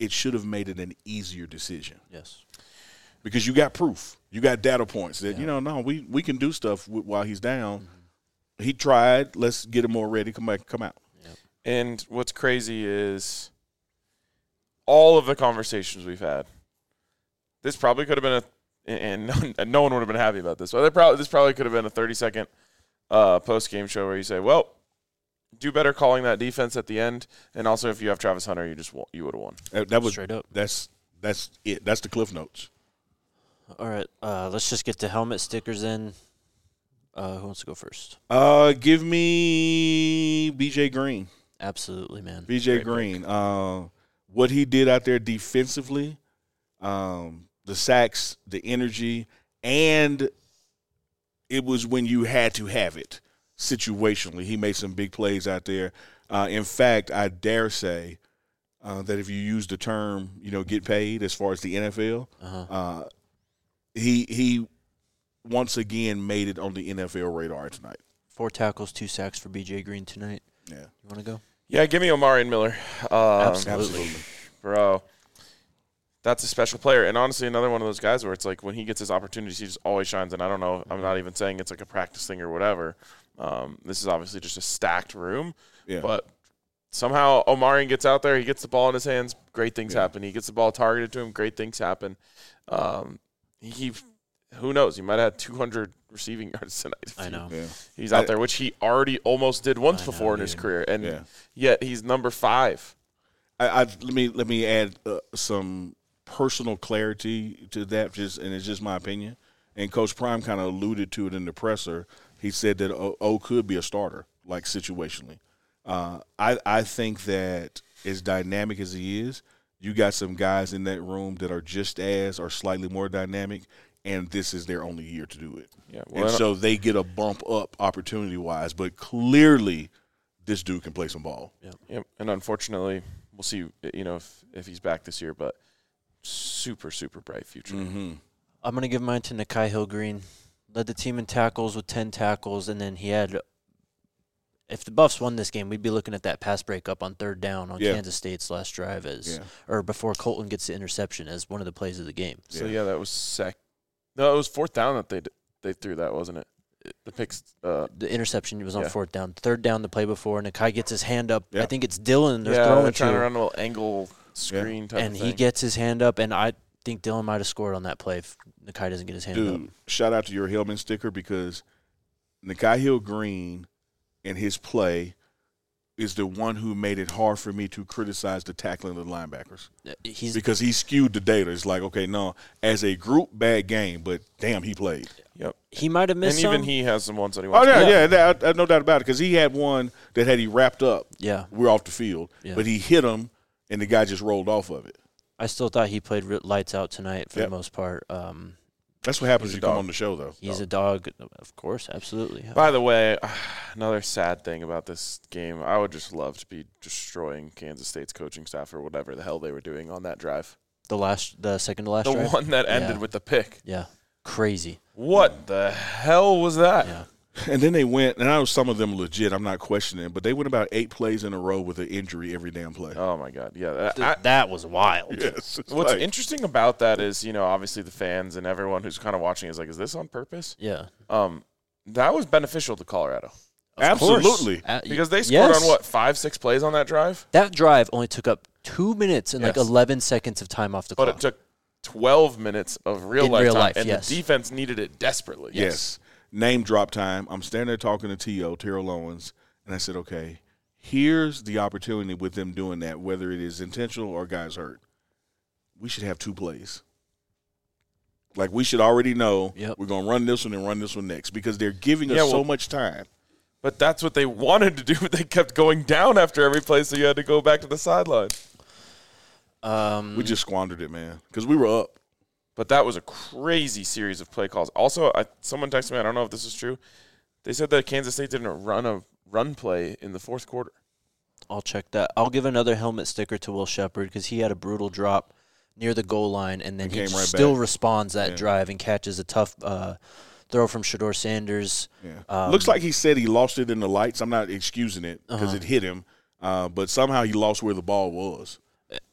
it should have made it an easier decision. Yes. Because you got proof. You got data points that, no, we can do stuff while he's down. Mm-hmm. He tried. Let's get him more ready. Come out. Yep. And what's crazy is all of the conversations we've had, this probably could have been and no one would have been happy about this, but this probably could have been a 30-second post-game show where you say, well, do better calling that defense at the end, and also if you have Travis Hunter, you would have won. That was straight up. That's it. That's the Cliff Notes. All right, let's just get the helmet stickers in. Who wants to go first? Give me BJ Green. Absolutely, man. BJ Green. What he did out there defensively, the sacks, the energy, and it was when you had to have it situationally. He made some big plays out there. In fact, I dare say that if you use the term, get paid as far as the NFL, he once again made it on the NFL radar tonight. 4 tackles, 2 sacks for BJ Green tonight. Yeah. You want to go? Yeah, give me Omari and Miller. Absolutely. Bro. That's a special player. And honestly, another one of those guys where it's like when he gets his opportunities, he just always shines. And I don't know, I'm not even saying it's like a practice thing or whatever. This is obviously just a stacked room. Yeah. But somehow Omari gets out there, he gets the ball in his hands, great things happen. He gets the ball targeted to him, great things happen. Who knows? He might have had 200 receiving yards tonight. I know. Yeah. He's out there, which he already almost did once before in his career. And yet he's number 5. Let me add some personal clarity to that, and it's just my opinion. And Coach Prime kind of alluded to it in the presser. He said that O could be a starter, like situationally. I think that as dynamic as he is, you got some guys in that room that are just as or slightly more dynamic, and this is their only year to do it. Yeah, well, and so they get a bump up opportunity-wise, but clearly this dude can play some ball. Yep. And unfortunately, we'll see, if he's back this year, but super, super bright future. Mm-hmm. I'm going to give mine to Nakai Hill-Green. Led the team in tackles with 10 tackles, and then he had – if the Buffs won this game, we'd be looking at that pass breakup on 3rd down on Kansas State's last drive or before Colton gets the interception as one of the plays of the game. So, that was No, it was 4th down that they threw that, wasn't it? The picks. The interception was on 4th down. 3rd down the play before, Nakai gets his hand up. I think it's Dylan they're throwing they're trying to run a little angle screen type and of thing. he gets his hand up, and I think Dylan might have scored on that play if Nakai doesn't get his hand up. Dude, shout out to your Hillman sticker because Nakai Hill-Green and his play is the one who made it hard for me to criticize the tackling of the linebackers. Because he skewed the data. It's like, okay, no, as a group, bad game, but damn, he played. Yep. He might have missed And even some. he has some ones that he wants I no doubt about it, because he had one that had he wrapped up, we're off the field, but he hit him, and the guy just rolled off of it. I still thought he played lights out tonight for the most part. That's what happens when you come on the show, though. He's a dog, of course, absolutely. By the way, another sad thing about this game, I would just love to be destroying Kansas State's coaching staff or whatever the hell they were doing on that drive. The second to last drive? The one that ended with the pick. Yeah, crazy. What the hell was that? Yeah. And then they went, and I know some of them legit, I'm not questioning it, but they went about 8 plays in a row with an injury every damn play. Oh, my God. Yeah. That was wild. Yes, what's interesting about that is, obviously the fans and everyone who's kind of watching is like, is this on purpose? Yeah. That was beneficial to Colorado. Absolutely. Because they scored on, 5-6 plays on that drive? That drive only took up 2 minutes and 11 seconds of time off the clock. But it took 12 minutes of real life time, and the defense needed it desperately. Yes. Name drop time. I'm standing there talking to Terrell Owens, and I said, okay, here's the opportunity with them doing that, whether it is intentional or guys hurt. We should have 2 plays. Like, we should already know we're going to run this one and run this one next because they're giving us so much time. But that's what they wanted to do, but they kept going down after every play, so you had to go back to the sideline. We just squandered it, man, because we were up. But that was a crazy series of play calls. Also, someone texted me, I don't know if this is true. They said that Kansas State didn't run a run play in the 4th quarter. I'll check that. I'll give another helmet sticker to Will Shepard because he had a brutal drop near the goal line, and then he still responds that drive and catches a tough throw from Shedeur Sanders. Yeah. Looks like he said he lost it in the lights. I'm not excusing it because it hit him, but somehow he lost where the ball was.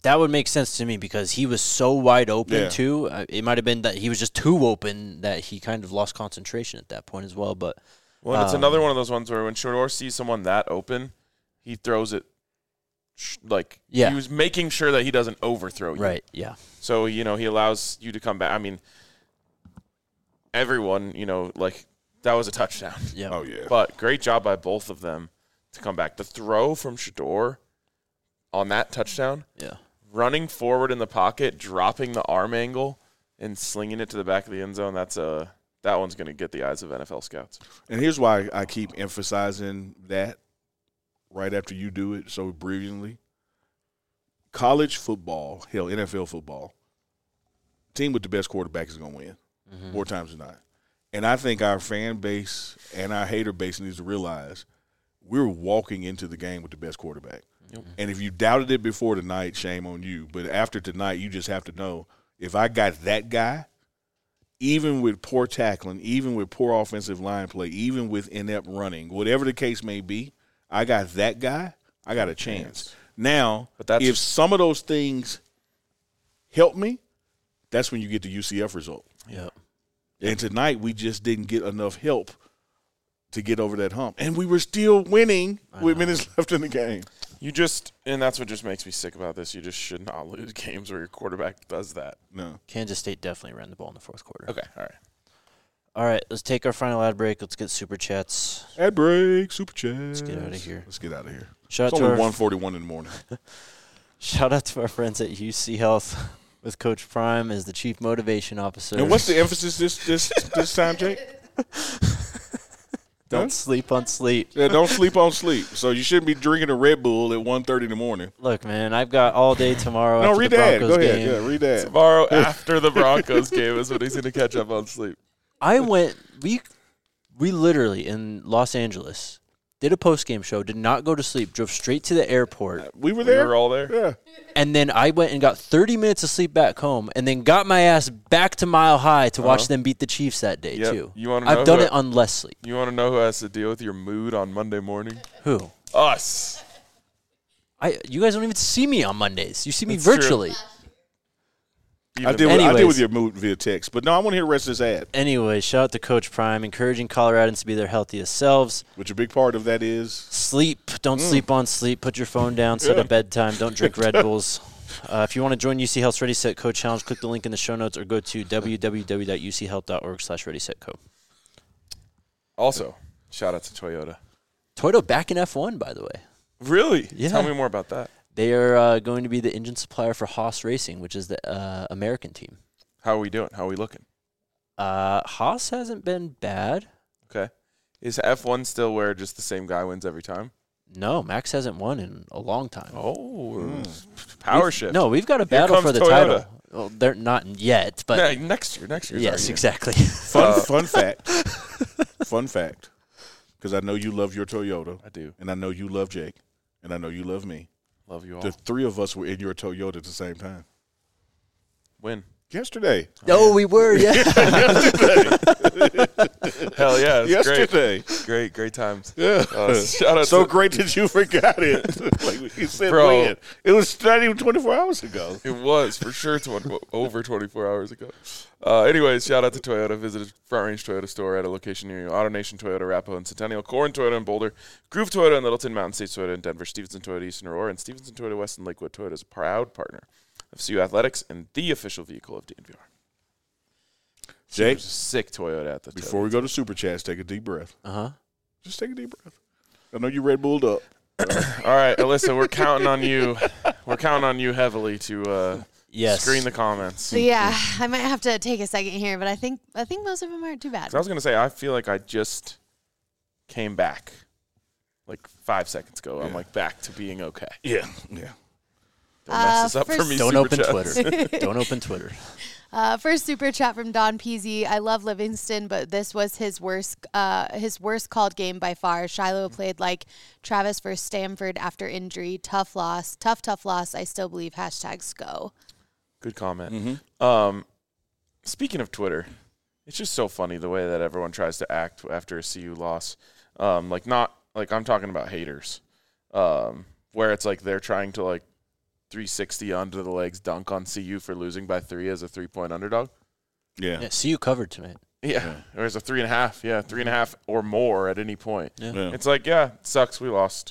That would make sense to me because he was so wide open, Yeah. too. It might have been that he was just too open that he kind of lost concentration at that point as well. But Well, it's another one of those ones where when Shador sees someone that open, he throws it he was making sure that he doesn't overthrow you. Right, yeah. So, he allows you to come back. I mean, everyone, that was a touchdown. Yeah. Oh, yeah. But great job by both of them to come back. The throw from Shador on that touchdown, Yeah. running forward in the pocket, dropping the arm angle, and slinging it to the back of the end zone, that one's going to get the eyes of NFL scouts. And here's why I keep emphasizing that right after you do it so brilliantly. College football, hell, NFL football, team with the best quarterback is going to win more times than not. And I think our fan base and our hater base needs to realize we're walking into the game with the best quarterback. Yep. And if you doubted it before tonight, shame on you. But after tonight, you just have to know if I got that guy, even with poor tackling, even with poor offensive line play, even with inept running, whatever the case may be, I got that guy, I got a chance. Now, if some of those things help me, that's when you get the UCF result. Yep. And tonight we just didn't get enough help to get over that hump. And we were still winning with minutes left in the game. And that's what just makes me sick about this. You just should not lose games where your quarterback does that. No. Kansas State definitely ran the ball in the fourth quarter. Okay, all right. All right, let's take our final ad break. Let's get super chats. Ad break, super chat. Let's get out of here. Let's get out of here. Shout It's out to only our 1:41 in the morning. Shout out to our friends at UC Health with Coach Prime as the Chief Motivation Officer. And what's the emphasis this time, Jake? Don't sleep on sleep. Yeah, don't sleep on sleep. So you shouldn't be drinking a Red Bull at 1:30 in the morning. Look, man, I've got all day tomorrow. No, after read the that. Broncos Go ahead. game. Yeah, read that. Tomorrow after the Broncos game is when he's going to catch up on sleep. I went. We literally in Los Angeles did a post-game show. Did not go to sleep. Drove straight to the airport, We were there. We were all there? Yeah. and then I went and got 30 minutes of sleep back home, and then got my ass back to Mile High to watch them beat the Chiefs that day Yep. too. You wanna know I've done who- it on less sleep. You want to know who has to deal with your mood on Monday morning? Who? Us. You guys don't even see me on Mondays. You see me That's true. virtually. I deal Anyways. with your mood via text. But no, I want to hear the rest of this ad, Anyway, shout out to Coach Prime, encouraging Coloradans to be their healthiest selves. which a big part of that is Sleep. Don't sleep on sleep. Put your phone down. Set a bedtime. Don't drink Red Bulls. If you want to join UC Health's Ready, Set, Co challenge, click the link in the show notes or go to www.uchealth.org/readysetco. Also, shout out to Toyota. Toyota back in F1, by the way. Really? Yeah. Tell me more about that. They are going to be the engine supplier for Haas Racing, which is the American team. How are we doing? How are we looking? Haas hasn't been bad. Okay. Is F1 still where just the same guy wins every time? No, Max hasn't won in a long time. Oh, power shift. No, we've got a battle comes for the Toyota. title. Well, they're not yet, but Yeah, next year. yes, exactly. fun fact. Fun fact. Because I know you love your Toyota. I do. And I know you love Jake. And I know you love me. Love you all. The three of us were in your Toyota at the same time. Win. Yesterday. Oh, we were, yeah. Hell yeah. It's Yesterday. Great times. Yeah. Shout out So to great that you forgot it. Like you said, Bro. when? It was not even 24 hours ago. It was for sure over 24 hours ago. Anyways, shout out to Toyota. Visit a Front Range Toyota store at a location near you. AutoNation Toyota, Arapahoe, and Centennial. Corn Toyota in Boulder. Groove Toyota in Littleton. Mountain States Toyota in Denver. Stevenson Toyota East in Aurora. And Stevenson Toyota West in Lakewood. Toyota is a proud partner of CU Athletics and the official vehicle of DNVR. Jake, There's a sick Toyota at the before we go to Super Chats, take a deep breath. Uh-huh. Just take a deep breath. I know you Red Bulled up. All right, Alyssa, we're counting on you. We're counting on you heavily to Yes. screen the comments. So yeah, I might have to take a second here, but I think most of them aren't too bad. I was going to say, I feel like I just came back like 5 seconds ago. I'm like back to being okay. Yeah. Don't mess this up for me. Don't Super open Chats. Twitter. Don't open Twitter. First super chat from Don Peasy. I love Livingston, but this was his worst called game by far. Shiloh played like Travis versus Stanford after injury. Tough loss. Tough loss. I still believe #SCO. Good comment. Mm-hmm. Speaking of Twitter, it's just so funny the way that everyone tries to act after a CU loss. I'm talking about haters, where it's like they're trying to like 360 under the legs dunk on CU for losing by 3 as a 3-point underdog. Yeah. Yeah, CU covered tonight. Yeah, or as a 3.5. Yeah, 3.5 or more at any point. Yeah. Yeah. It's like, yeah, it sucks. We lost.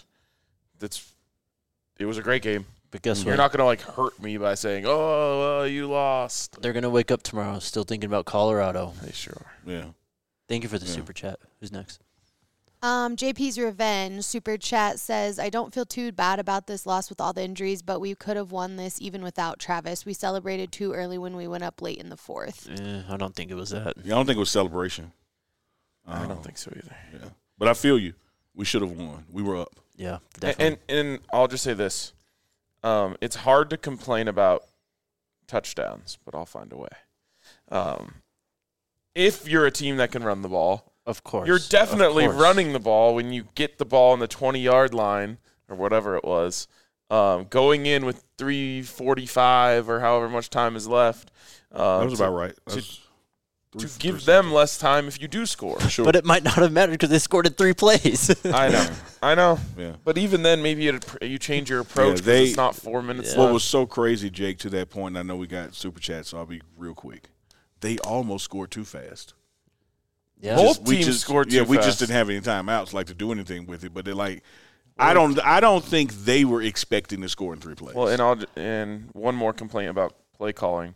It was a great game. But guess You're what? not going to hurt me by saying, "Oh, you lost." They're going to wake up tomorrow still thinking about Colorado. They sure are. Yeah. Thank you for the Yeah. super chat. Who's next? JP's Revenge super chat says, I don't feel too bad about this loss with all the injuries, but we could have won this even without Travis. We celebrated too early when we went up late in the fourth. I don't think it was that. Yeah, I don't think it was celebration. I don't think so either. Yeah. But I feel you. We should have won. We were up. Yeah, definitely. And I'll just say this. It's hard to complain about touchdowns, but I'll find a way. If you're a team that can run the ball, of course. you're definitely Of course. running the ball when you get the ball on the 20-yard line or whatever it was, going in with 3:45 or however much time is left. That was about right. To give them less time if you do score. Sure. But it might not have mattered because they scored in 3 plays. I know. Yeah. But even then, maybe you change your approach because it's not 4 minutes What left. was so crazy, Jake, to that point, and I know we got super chat, so I'll be real quick. They almost scored too fast. Yeah. Both We teams scored too Yeah, we fast. just didn't have any timeouts to do anything with it. But they're like, I don't think they were expecting to score in 3 plays. Well, and one more complaint about play calling.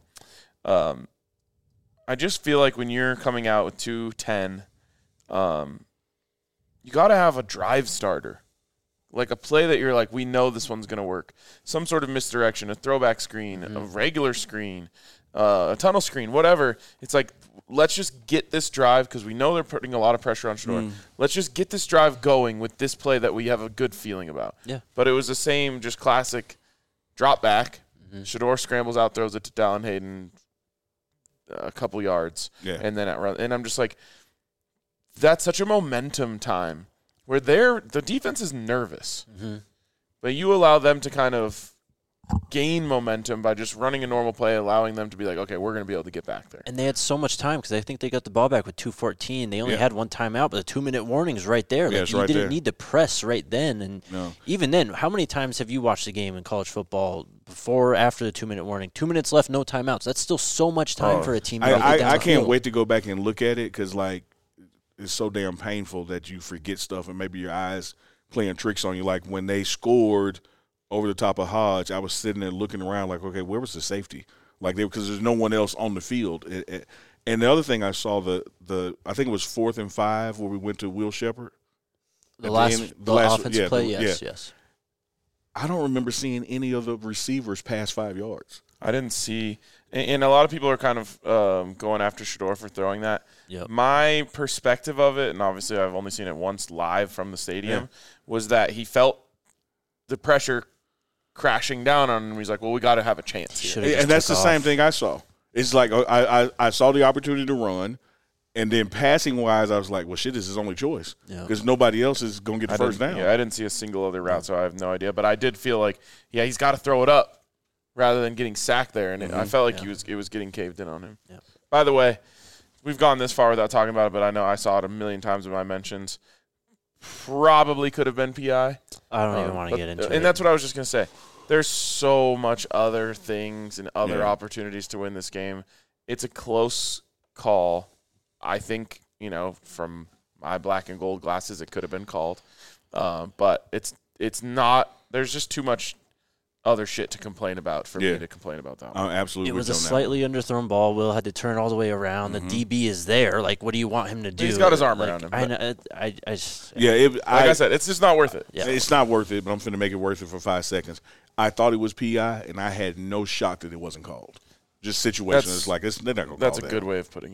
I just feel like when you're coming out with 2-10, you got to have a drive starter. Like a play that you're like, we know this one's going to work. Some sort of misdirection, a throwback screen, a regular screen, a tunnel screen, whatever. It's like, let's just get this drive because we know they're putting a lot of pressure on Shador. Let's just get this drive going with this play that we have a good feeling about. Yeah. But it was the same, just classic drop back. Shador scrambles out, throws it to Dallin Hayden a couple yards, and then and I'm just like, that's such a momentum time where the defense is nervous, but you allow them to kind of gain momentum by just running a normal play, allowing them to be like, okay, we're going to be able to get back there. And they had so much time because I think they got the ball back with 2:14. They only had one timeout, but the 2-minute warning is right there. Yeah, Like, it's you right didn't there. need to press right then. And even then, how many times have you watched the game in college football before or after the 2-minute warning? 2 minutes left, no timeouts. That's still so much time for a team. To get down I the can't field. wait to go back and look at it because, it's so damn painful that you forget stuff and maybe your eyes playing tricks on you. Like when they scored over the top of Hodge, I was sitting there looking around like, okay, where was the safety? Because there's no one else on the field. And the other thing I saw, I think it was 4th and 5 where we went to Will Shepherd. The last offensive play, yes. I don't remember seeing any of the receivers past 5 yards. I didn't see – and a lot of people are kind of going after Shador for throwing that. Yep. My perspective of it, and obviously I've only seen it once live from the stadium, was that he felt the pressure crashing down on him. He's like, well, we got to have a chance here. And that's the same thing I saw. It's like I saw the opportunity to run, and then passing-wise, I was like, well, shit, this is his only choice because nobody else is going to get the first down. Yeah, I didn't see a single other route, so I have no idea. But I did feel like, he's got to throw it up rather than getting sacked there, and I felt like it was getting caved in on him. Yeah. By the way, we've gone this far without talking about it, but I know I saw it a million times in my mentions. Probably could have been PI. I don't even want to get into it. And that's what I was just going to say. There's so much other things and other opportunities to win this game. It's a close call. I think, from my black and gold glasses, it could have been called. But it's not – there's just too much other shit to complain about for me to complain about that one. Absolutely. It was a slightly underthrown ball. Will had to turn it all the way around. The DB is there. Like, what do you want him to do? He's got his arm around him. I know. I just, like I said, it's just not worth it. Yeah. It's not worth it, but I'm finna make it worth it for 5 seconds. I thought it was PI, and I had no shock that it wasn't called. Just situation. It's like they're not going to call That's a that. good way of putting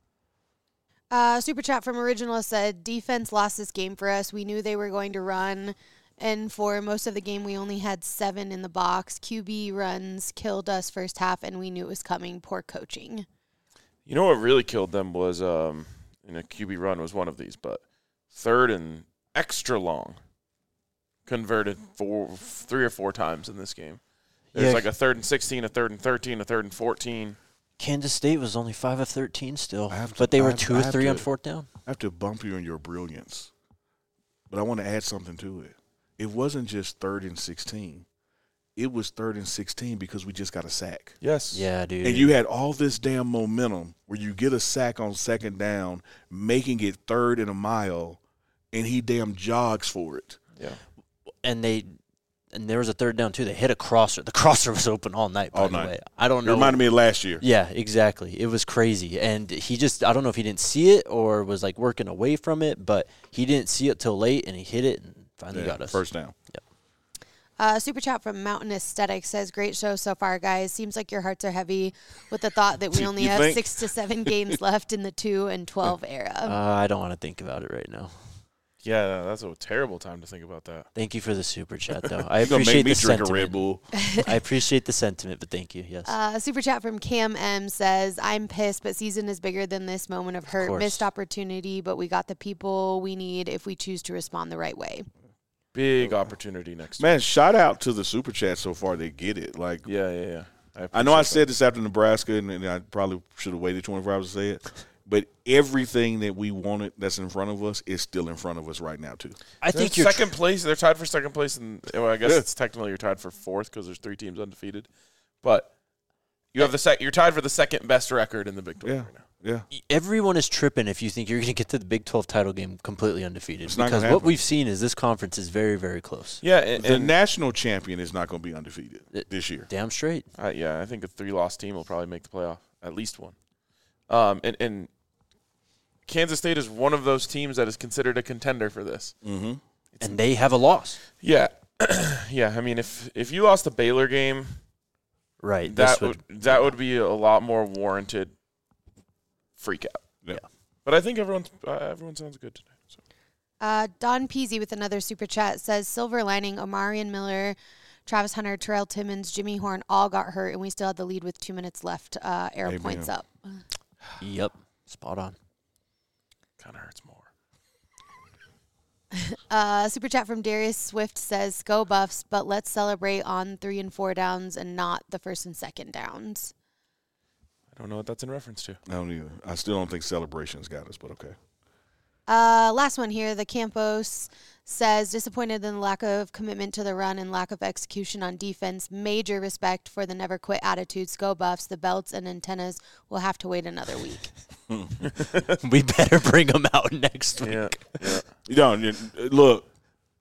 it. Super chat from Original said, defense lost this game for us. We knew they were going to run. And for most of the game, we only had 7 in the box. QB runs killed us first half, and we knew it was coming. Poor coaching. You know what really killed them was, a QB run was one of these, but 3rd and extra long converted 3 or 4 times in this game. There's like a 3rd and 16, a 3rd and 13, a 3rd and 14. Kansas State was only 5 of 13 still, but they were 2 of 3 on 4th down. I have to bump you in your brilliance, but I want to add something to it. It wasn't just 3rd and 16. it was 3rd and 16 because we just got a sack. Yes. Yeah, dude. And you had all this damn momentum where you get a sack on 2nd down, making it 3rd and a mile, and he damn jogs for it. Yeah. And there was a 3rd down too. They hit a crosser. The crosser was open all night. By the way, I don't know. It reminded me of last year. Yeah, exactly. It was crazy, and I don't know if he didn't see it or was like working away from it, but he didn't see it till late, and he hit it and finally got us 1st down. Yep. Super chat from Mountain Aesthetic says, "Great show so far, guys. Seems like your hearts are heavy with the thought that we only have think? 6 to 7 games left in the 2 and 12 era." I don't want to think about it right now. Yeah, that's a terrible time to think about that. Thank you for the super chat, though. I You're gonna appreciate make me the drink sentiment. a Red Bull. I appreciate the sentiment, but thank you. Yes. Super chat from Cam M says, "I'm pissed, but season is bigger than this moment of hurt. course. Missed opportunity, but we got the people we need if we choose to respond the right way." Big opportunity next Man, shout out to the super chat so far. They get it. Like, week. Yeah. I know I appreciate said this after Nebraska, and I probably should have waited 24 hours to say it. But everything that we wanted that's in front of us is still in front of us right now, too. I that. think They're you're second place. They're tied for second place, and well, I guess it's technically you're tied for 4th because there's 3 teams undefeated. But you have you're tied for the second best record in the Big 12 right now. Yeah. everyone is tripping if you think you're going to get to the Big 12 title game completely undefeated. It's not Because gonna what happen. we've seen is this conference is very, very close. Yeah, and The national champion is not going to be undefeated this year. Damn straight. I think a 3-loss team will probably make the playoff, at least one. And Kansas State is one of those teams that is considered a contender for this. Mm-hmm. And they have a loss. Yeah, yeah. I mean, if you lost a Baylor game, Right. that would be a lot more warranted freak out. Yeah. But I think everyone sounds good today. So. Don Peasy with another super chat says, "Silver lining, Omarion Miller, Travis Hunter, Terrell Timmons, Jimmy Horn all got hurt, and we still had the lead with 2 minutes left. Arrow Amen. points up." Yep. Spot on. Kind of hurts more. Super chat from Darius Swift says, "Go Buffs, but let's celebrate on 3 and 4 downs and not the 1st and 2nd downs." I don't know what that's in reference to. I don't either. I still don't think celebrations got us, but okay. Last one here. The Campos says, "Disappointed in the lack of commitment to the run and lack of execution on defense. Major respect for the never quit attitudes. Go Buffs. The belts and antennas will have to wait another week." We better bring them out next week. Yeah. You know, look,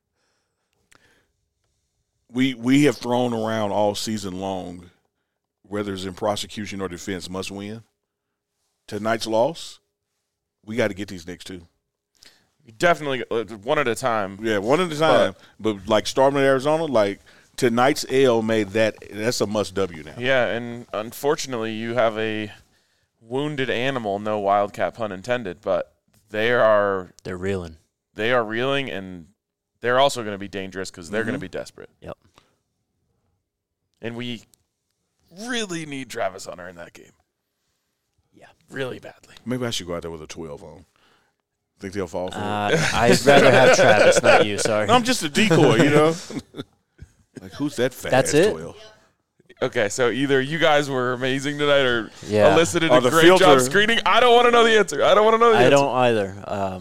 we have thrown around all season long, whether it's in prosecution or defense, must win. Tonight's loss, we got to get these next 2. Definitely one at a time. Yeah, one at a time. But like Starman, Arizona, like tonight's L made that's a must W now. Yeah, and unfortunately, you have a wounded animal, no wildcat pun intended, but they're reeling. They are reeling, and they're also going to be dangerous because they're going to be desperate. Yep. And we really need Travis Hunter in that game. Yeah. Really badly. Maybe I should go out there with a 12 on. Think they'll fall for it? I'd rather have Travis, not you. Sorry. No, I'm just a decoy, you know. Like, who's that fat That's ass it? 12? Okay, so either you guys were amazing tonight or Yeah. elicited Or a the great filter. job screening. I don't want to know the answer. I I don't either.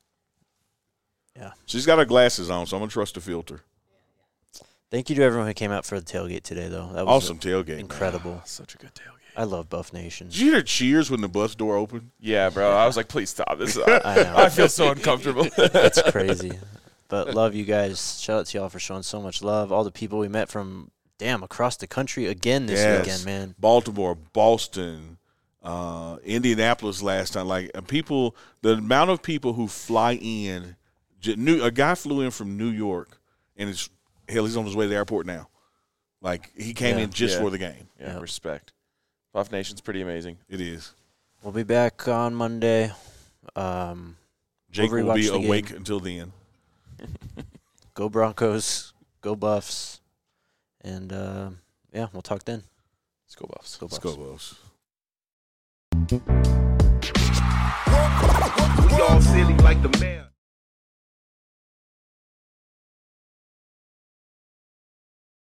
She's got her glasses on, so I'm going to trust the filter. Thank you to everyone who came out for the tailgate today, though. That was Awesome tailgate. incredible. Such a good tailgate. I love Buff Nation. Did you hear cheers when the bus door opened? Yeah, bro. I was like, please stop. This is, I know. I feel so uncomfortable. It's crazy. But love you guys. Shout out to y'all for showing so much love. All the people we met from, across the country again this weekend, man. Baltimore, Boston, Indianapolis last time. Like, the amount of people who fly in. A guy flew in from New York, and he's on his way to the airport now. Like, he came in just for the game. Yeah, Yep. respect. Buff Nation's pretty amazing. It is. We'll be back on Monday. Jake We'll will be rewatch the awake game. until then. Go Broncos. Go Buffs. And, we'll talk then. Let's go Buffs. Go Buffs. Let's go, Buffs.